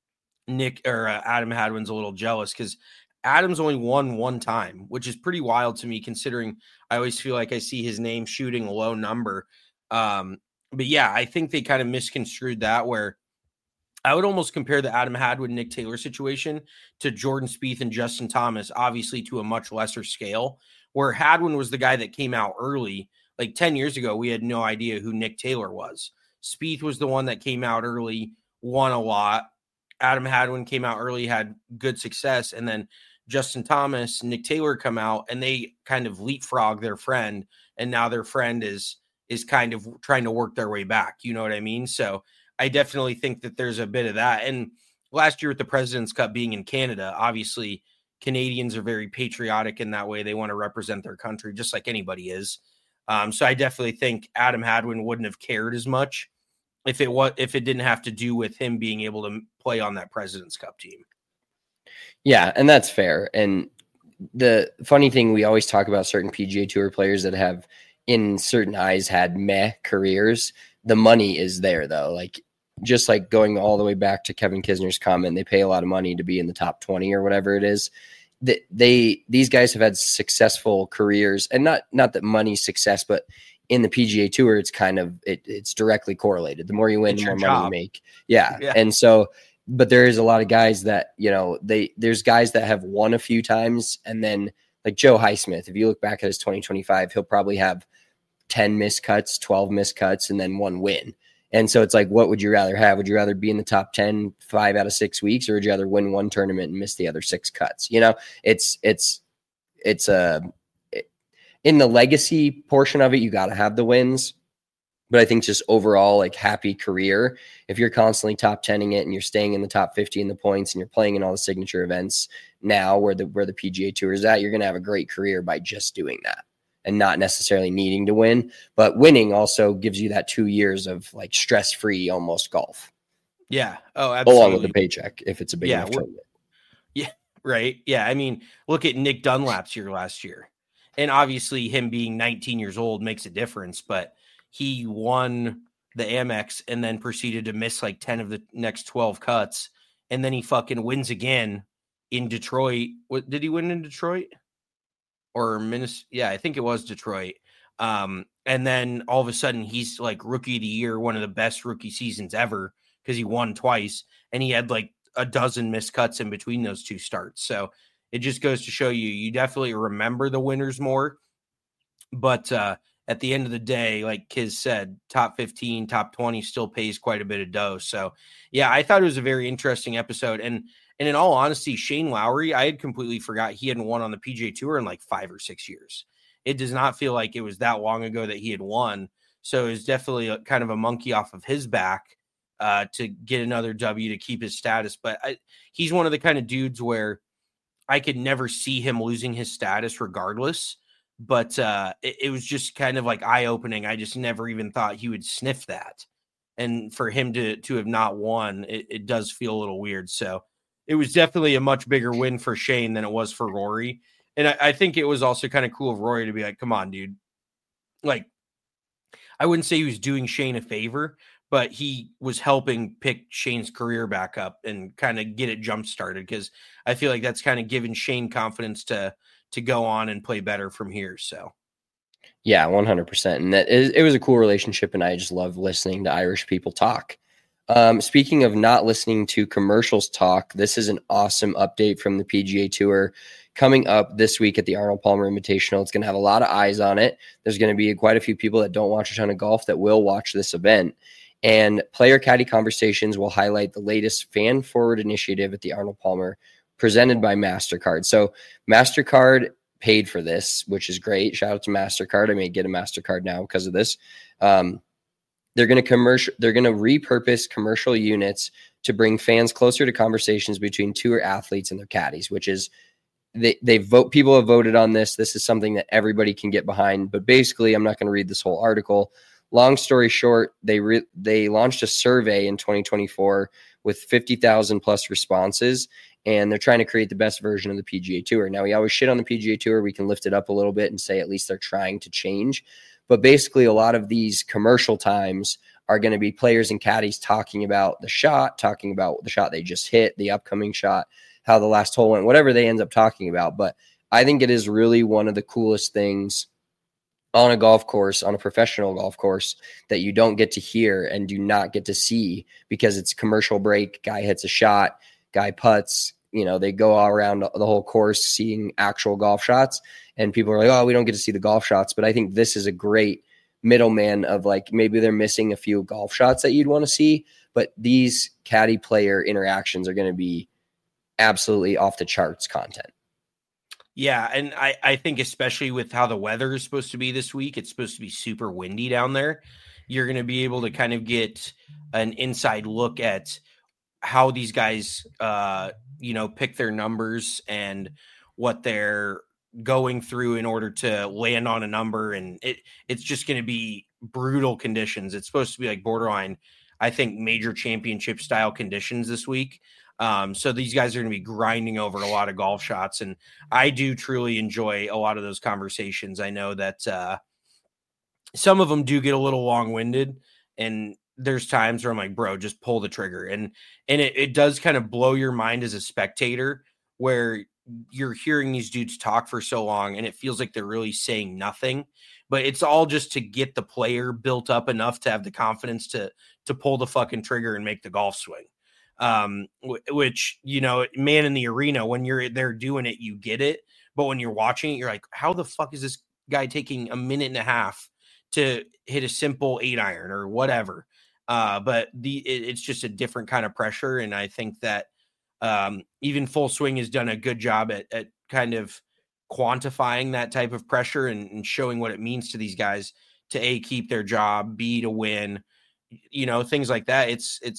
Adam Hadwin's a little jealous, because Adam's only won one time, which is pretty wild to me, considering I always feel like I see his name shooting a low number. But yeah, I think they kind of misconstrued that, where I would almost compare the Adam Hadwin, Nick Taylor situation to Jordan Spieth and Justin Thomas, obviously to a much lesser scale, where Hadwin was the guy that came out early. Like 10 years ago, we had no idea who Nick Taylor was. Spieth was the one that came out early, won a lot. Adam Hadwin came out early, had good success. And then Justin Thomas, Nick Taylor come out, and they kind of leapfrog their friend. And now their friend is kind of trying to work their way back. You know what I mean? So I definitely think that there's a bit of that. And last year with the President's Cup being in Canada, obviously Canadians are very patriotic in that way. They want to represent their country just like anybody is. So I definitely think Adam Hadwin wouldn't have cared as much if it didn't have to do with him being able to play on that President's Cup team. Yeah, and that's fair. And the funny thing, we always talk about certain PGA Tour players that have, in certain eyes, had meh careers. The money is there, though. Like, just like going all the way back to Kevin Kisner's comment, they pay a lot of money to be in the top 20 or whatever it is. These guys have had successful careers, and not that money's success, but in the PGA Tour, it's kind of it's directly correlated. The more you win, the more money you make. Yeah. And so, but there is a lot of guys that, there's guys that have won a few times, and then like Joe Highsmith, if you look back at his 2025, he'll probably have 10 missed cuts, 12 missed cuts, and then 1 win. And so it's like, what would you rather have? Would you rather be in the top 10, 5 out of 6 weeks, or would you rather win 1 tournament and miss the other 6 cuts? It's in the legacy portion of it, you got to have the wins. But I think just overall, like, happy career, if you're constantly top 10ing it and you're staying in the top 50 in the points and you're playing in all the signature events now where the PGA Tour is at, you're going to have a great career by just doing that and not necessarily needing to win. But winning also gives you that 2 years of like stress-free almost golf. Yeah. Oh, absolutely. Along with the paycheck if it's a big enough tournament. Yeah, right? Yeah, I mean, look at Nick Dunlap's year last year. And obviously him being 19 years old makes a difference, but he won the Amex and then proceeded to miss like 10 of the next 12 cuts. And then he fucking wins again in Detroit. What did he win in Detroit? Or Minnesota? Yeah, I think it was Detroit. And then all of a sudden he's like rookie of the year, one of the best rookie seasons ever because he won twice. And he had like a dozen missed cuts in between those two starts. So it just goes to show you definitely remember the winners more. But at the end of the day, like Kiz said, top 15, top 20 still pays quite a bit of dough. So, yeah, I thought it was a very interesting episode. And in all honesty, Shane Lowry, I had completely forgot he hadn't won on the PGA Tour in like 5 or 6 years. It does not feel like it was that long ago that he had won. So it was definitely kind of a monkey off of his back to get another W to keep his status. But he's one of the kind of dudes where I could never see him losing his status regardless. But it was just kind of like eye-opening. I just never even thought he would sniff that. And for him to have not won, it does feel a little weird. So it was definitely a much bigger win for Shane than it was for Rory. And I think it was also kind of cool of Rory to be like, come on, dude. Like, I wouldn't say he was doing Shane a favor, but he was helping pick Shane's career back up and kind of get it jump-started, because I feel like that's kind of given Shane confidence to go on and play better from here. So, yeah, 100%. And it was a cool relationship, and I just love listening to Irish people talk. Speaking of not listening to commercials talk, this is an awesome update from the PGA Tour coming up this week at the Arnold Palmer Invitational. It's going to have a lot of eyes on it. There's going to be quite a few people that don't watch a ton of golf that will watch this event. And Player Caddy Conversations will highlight the latest fan-forward initiative at the Arnold Palmer presented by MasterCard. So MasterCard paid for this, which is great. Shout out to MasterCard. I may get a MasterCard now because of this. They're going to repurpose commercial units to bring fans closer to conversations between tour athletes and their caddies, which is people have voted on this. This is something that everybody can get behind. But basically, I'm not going to read this whole article. Long story short, they launched a survey in 2024 with 50,000 plus responses, and they're trying to create the best version of the PGA Tour. Now, we always shit on the PGA Tour. We can lift it up a little bit and say at least they're trying to change. But basically, a lot of these commercial times are going to be players and caddies talking about the shot they just hit, the upcoming shot, how the last hole went, whatever they end up talking about. But I think it is really one of the coolest things on a golf course, on a professional golf course, that you don't get to hear and do not get to see, because it's commercial break. Guy hits a shot, guy putts, they go all around the whole course seeing actual golf shots. And people are like, oh, we don't get to see the golf shots. But I think this is a great middleman of, like, maybe they're missing a few golf shots that you'd want to see, but these caddy player interactions are going to be absolutely off the charts content. Yeah, and I think especially with how the weather is supposed to be this week, it's supposed to be super windy down there. You're going to be able to kind of get an inside look at how these guys, pick their numbers and what they're going through in order to land on a number. And it's just going to be brutal conditions. It's supposed to be like borderline, I think, major championship style conditions this week. So these guys are going to be grinding over a lot of golf shots, and I do truly enjoy a lot of those conversations. I know that some of them do get a little long-winded, and there's times where I'm like, bro, just pull the trigger. And it does kind of blow your mind as a spectator, where you're hearing these dudes talk for so long and it feels like they're really saying nothing, but it's all just to get the player built up enough to have the confidence to pull the fucking trigger and make the golf swing. Which, man in the arena, when you're there doing it, you get it. But when you're watching it, you're like, how the fuck is this guy taking a minute and a half to hit a simple 8-iron or whatever? But it's just a different kind of pressure. And I think that even Full Swing has done a good job at kind of quantifying that type of pressure and showing what it means to these guys to A, keep their job, B, to win, things like that.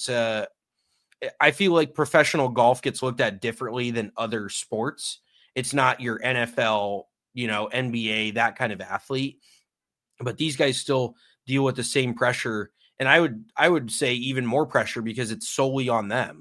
I feel like professional golf gets looked at differently than other sports. It's not your NFL, NBA, that kind of athlete, but these guys still deal with the same pressure. And I would say even more pressure, because it's solely on them.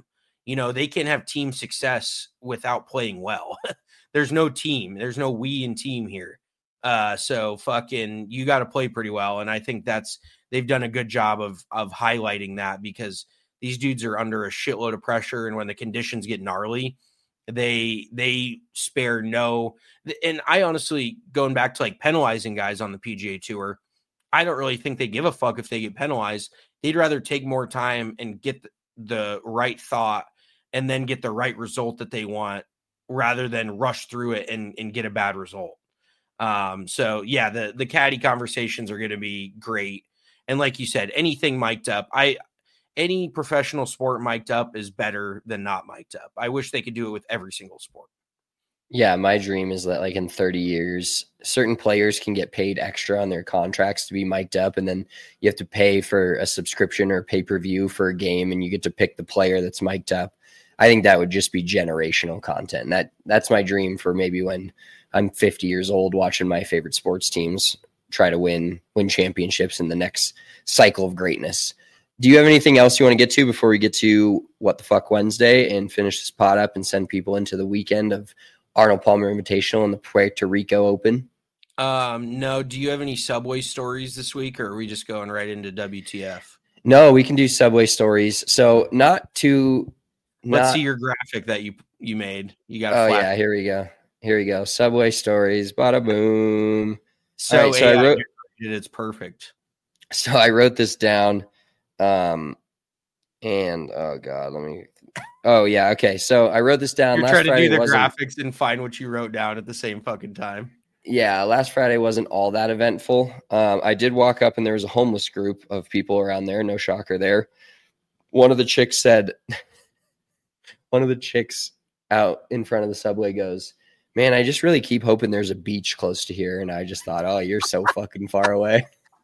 They can't have team success without playing well. There's no team. There's no we in team here. So fucking, you got to play pretty well. And I think they've done a good job of highlighting that, because these dudes are under a shitload of pressure. And when the conditions get gnarly, they spare no. And I honestly, going back to like penalizing guys on the PGA Tour, I don't really think they give a fuck if they get penalized. They'd rather take more time and get the right thought and then get the right result that they want, rather than rush through it and get a bad result. So yeah, the caddy conversations are going to be great. And like you said, anything mic'd up, any professional sport mic'd up is better than not mic'd up. I wish they could do it with every single sport. Yeah, my dream is that like in 30 years, certain players can get paid extra on their contracts to be mic'd up, and then you have to pay for a subscription or pay-per-view for a game, and you get to pick the player that's mic'd up. I think that would just be generational content. That's my dream for maybe when I'm 50 years old, watching my favorite sports teams try to win championships in the next cycle of greatness. Do you have anything else you want to get to before we get to What the Fuck Wednesday and finish this pod up and send people into the weekend of Arnold Palmer Invitational and the Puerto Rico Open? No. Do you have any Subway stories this week, or are we just going right into WTF? No, we can do Subway stories. So let's see your graphic that you made. You got. Oh yeah, here we go. Subway stories. Bada boom. So I wrote it. It's perfect. So I wrote this down. And oh god, oh yeah, okay. So I wrote this down. You're trying to do the graphics and find what you wrote down at the same fucking time. Yeah, last Friday wasn't all that eventful. I did walk up and there was a homeless group of people around there. No shocker there. One of the chicks out in front of the Subway goes, "Man, I just really keep hoping there's a beach close to here." And I just thought, oh, you're so fucking far away.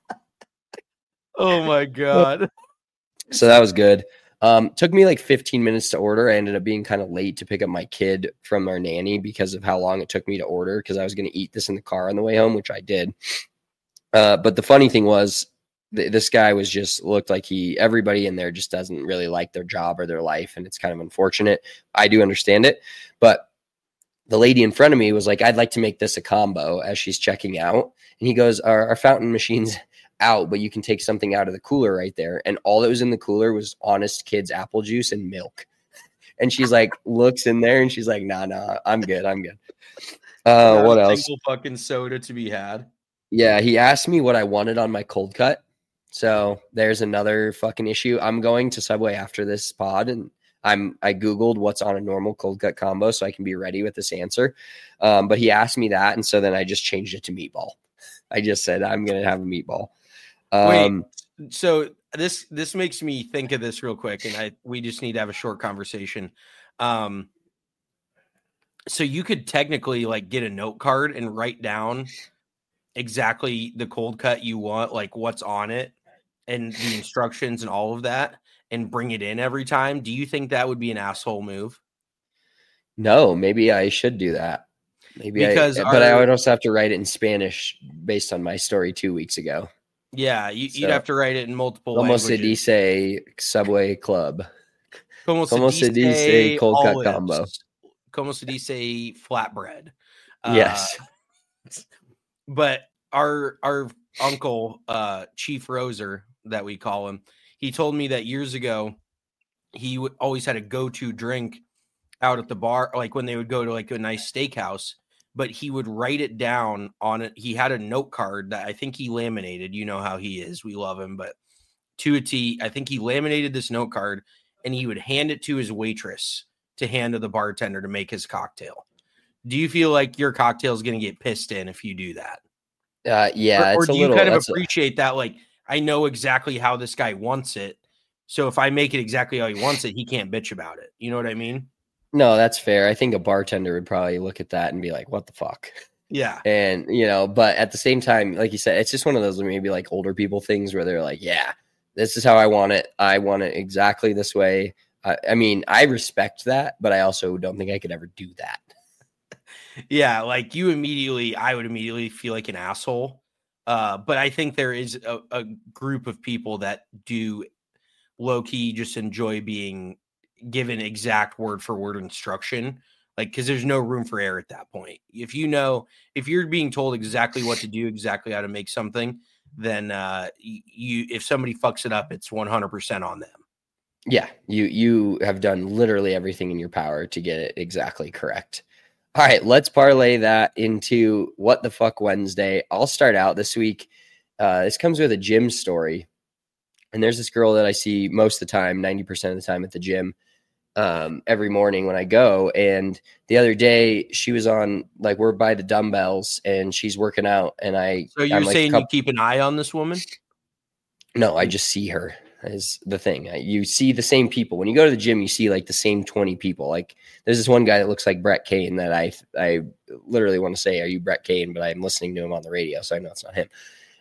Oh my God. So that was good. Took me like 15 minutes to order. I ended up being kind of late to pick up my kid from our nanny because of how long it took me to order, because I was going to eat this in the car on the way home, which I did. But the funny thing was, this guy looked like everybody in there just doesn't really like their job or their life. And it's kind of unfortunate. I do understand it. But the lady in front of me was like, "I'd like to make this a combo," as she's checking out. And he goes, our fountain machine's out, but you can take something out of the cooler right there. And all that was in the cooler was Honest Kids apple juice and milk. And she's like, looks in there and she's like, nah, I'm good. What else? Single fucking soda to be had. Yeah, he asked me what I wanted on my cold cut. So there's another fucking issue. I'm going to Subway after this pod, and I Googled what's on a normal cold cut combo so I can be ready with this answer. But he asked me that, and so then I just changed it to meatball. I just said I'm going to have a meatball. Wait, so this makes me think of this real quick, and we just need to have a short conversation. So you could technically like get a note card and write down exactly the cold cut you want, like what's on it and the instructions and all of that, and bring it in every time. Do you think that would be an asshole move? No, maybe I should do that. But I would also have to write it in Spanish based on my story 2 weeks ago. Yeah, you'd have to write it in multiple languages. Como se dice Subway Club? Como se dice cold cut combo? Como se dice flatbread? Yes. But our uncle, Chief Roser, that we call him, he told me that years ago he always had a go-to drink out at the bar, like when they would go to like a nice steakhouse. But he would write it down on it. He had a note card that I think he laminated. You know how he is. We love him. But to a T, I think he laminated this note card and he would hand it to his waitress to hand to the bartender to make his cocktail. Do you feel like your cocktail is going to get pissed in if you do that? Yeah. Or do you kind of appreciate that? Like, I know exactly how this guy wants it. So if I make it exactly how he wants it, he can't bitch about it. You know what I mean? No, that's fair. I think a bartender would probably look at that and be like, what the fuck? Yeah. And, but at the same time, like you said, it's just one of those maybe like older people things where they're like, yeah, this is how I want it. I want it exactly this way. I mean, I respect that, but I also don't think I could ever do that. Yeah. Like I would immediately feel like an asshole. But I think there is a group of people that do low key just enjoy being given exact word for word instruction, like, because there's no room for error at that point. If you're being told exactly what to do, exactly how to make something, then if somebody fucks it up, it's 100% on them. Yeah, you have done literally everything in your power to get it exactly correct. All right, let's parlay that into What the Fuck Wednesday. I'll start out this week. This comes with a gym story. And there's this girl that I see most of the time, 90% of the time at the gym, every morning when I go. And the other day she was on, like, we're by the dumbbells and she's working out. And So you're saying you keep an eye on this woman? No, I just see her is the thing. You see the same people. When you go to the gym, you see like the same 20 people. Like there's this one guy that looks like Brett Kane that I literally want to say, are you Brett Kane? But I'm listening to him on the radio, so I know it's not him.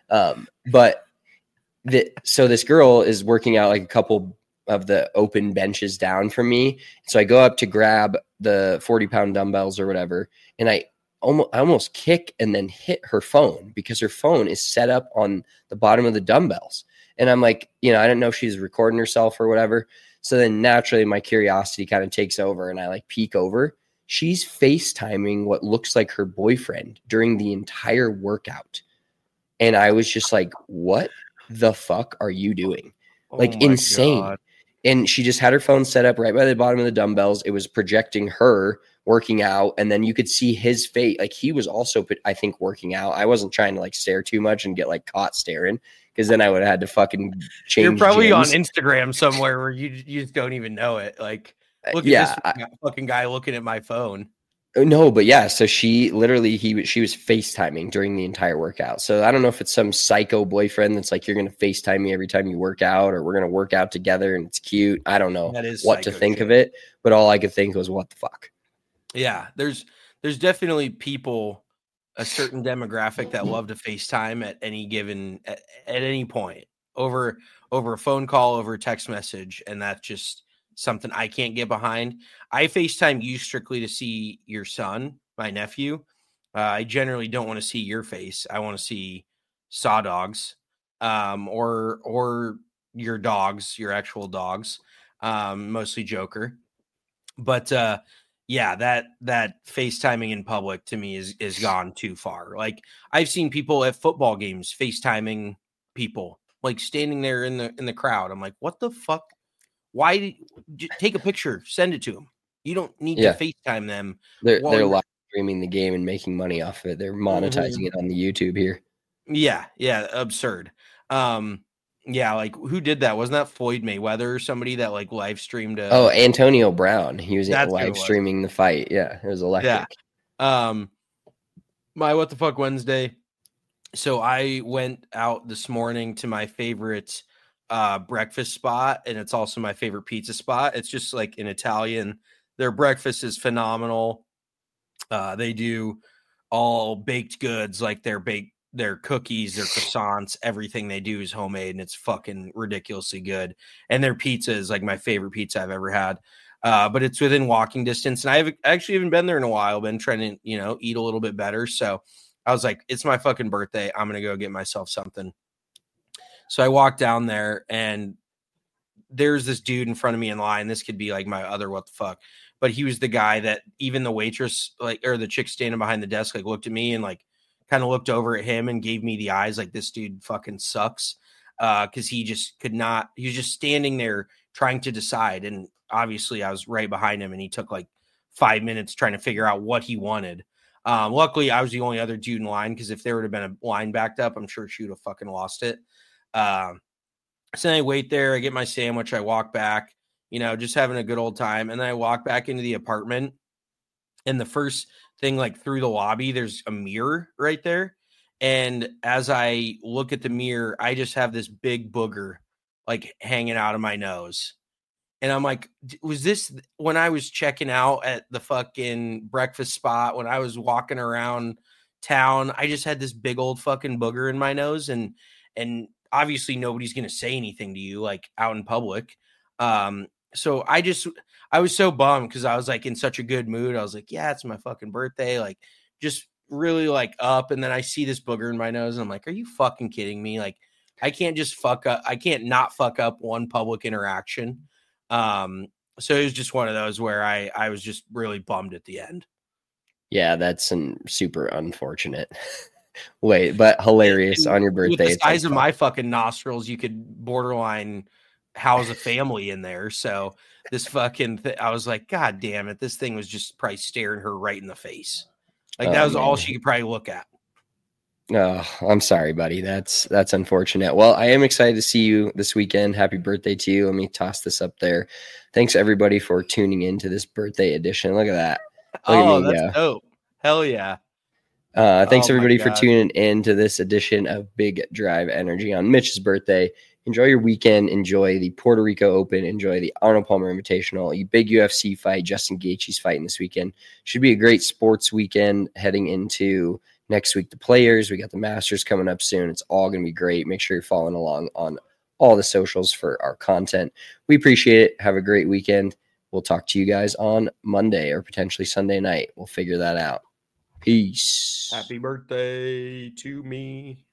So this girl is working out like a couple of the open benches down from me. So I go up to grab the 40-pound dumbbells or whatever, and I almost kick and then hit her phone because her phone is set up on the bottom of the dumbbells. And I'm like, I didn't know if she's recording herself or whatever. So then naturally my curiosity kind of takes over and I like peek over. She's FaceTiming what looks like her boyfriend during the entire workout. And I was just like, what the fuck are you doing? Like insane. God. And she just had her phone set up right by the bottom of the dumbbells. It was projecting her working out. And then you could see his face. Like he was also, I think, working out. I wasn't trying to like stare too much and get like caught staring, because then I would have had to fucking change. You're probably gyms. On Instagram somewhere where you just don't even know it. Like, look at this fucking guy looking at my phone. No, but yeah. So she literally, she was FaceTiming during the entire workout. So I don't know if it's some psycho boyfriend that's like, you're going to FaceTime me every time you work out, or we're going to work out together and it's cute. I don't know what to think of it, but all I could think was, what the fuck? Yeah. There's definitely people, a certain demographic that love to FaceTime at any point over a phone call, over a text message. And that's just something I can't get behind. I FaceTime you strictly to see your son, my nephew. I generally don't want to see your face. I want to see Saw Dogs, or your dogs, your actual dogs, mostly Joker. But yeah, that FaceTiming in public to me is gone too far. Like I've seen people at football games FaceTiming people, like standing there in the crowd. I'm like, what the fuck? Why take a picture, send it to them? You don't need to FaceTime them. They're live streaming the game and making money off of it. They're monetizing it on the YouTube here. Yeah, absurd. Yeah, like who did that? Wasn't that Floyd Mayweather or somebody that like live streamed? Antonio Brown. He was live streaming the fight. Yeah, it was electric. Yeah. My What the Fuck Wednesday. So I went out this morning to my favorite breakfast spot, and it's also my favorite pizza spot. It's just like an Italian. Their breakfast is phenomenal. They do all baked goods, like their cookies, their croissants, everything they do is homemade, and it's fucking ridiculously good. And their pizza is like my favorite pizza I've ever had. But it's within walking distance, and I actually haven't been there in a while. Been trying to, eat a little bit better. So I was like, it's my fucking birthday. I'm going to go get myself something. So I walked down there, and there's this dude in front of me in line. This could be like my other what the fuck, but he was the guy that even the waitress, or the chick standing behind the desk, like looked at me and like kind of looked over at him and gave me the eyes like, this dude fucking sucks. Cause he just could not, he was just standing there trying to decide. And obviously I was right behind him, and he took like 5 minutes trying to figure out what he wanted. Luckily I was the only other dude in line, because if there would have been a line backed up, I'm sure she would have fucking lost it. So I wait there, I get my sandwich, I walk back, just having a good old time. And then I walk back into the apartment, and the first thing, like through the lobby, there's a mirror right there. And as I look at the mirror, I just have this big booger like hanging out of my nose. And I'm like, was this when I was checking out at the fucking breakfast spot, when I was walking around town, I just had this big old fucking booger in my nose. And obviously nobody's going to say anything to you like out in public. So I was so bummed, because I was like in such a good mood. I was like, yeah, it's my fucking birthday. Like just really like up. And then I see this booger in my nose, and I'm like, are you fucking kidding me? Like I can't just fuck up. I can't not fuck up one public interaction. So it was just one of those where I was just really bummed at the end. Yeah, that's super unfortunate. Wait, but hilarious on your birthday. With the size of my fucking nostrils, you could borderline house a family in there. So this fucking I was like, God damn it. This thing was just probably staring her right in the face. Like that was all she could probably look at. Oh, I'm sorry, buddy. That's unfortunate. Well, I am excited to see you this weekend. Happy birthday to you. Let me toss this up there. Thanks everybody for tuning in to this birthday edition. Look at that. Look at me, that's dope. Hell yeah. Thanks everybody for tuning in to this edition of Big Drive Energy on Mitch's birthday. Enjoy your weekend. Enjoy the Puerto Rico Open. Enjoy the Arnold Palmer Invitational. A big UFC fight. Justin Gaethje's fighting this weekend. Should be a great sports weekend heading into next week. The Players. We got the Masters coming up soon. It's all going to be great. Make sure you're following along on all the socials for our content. We appreciate it. Have a great weekend. We'll talk to you guys on Monday or potentially Sunday night. We'll figure that out. Peace. Happy birthday to me.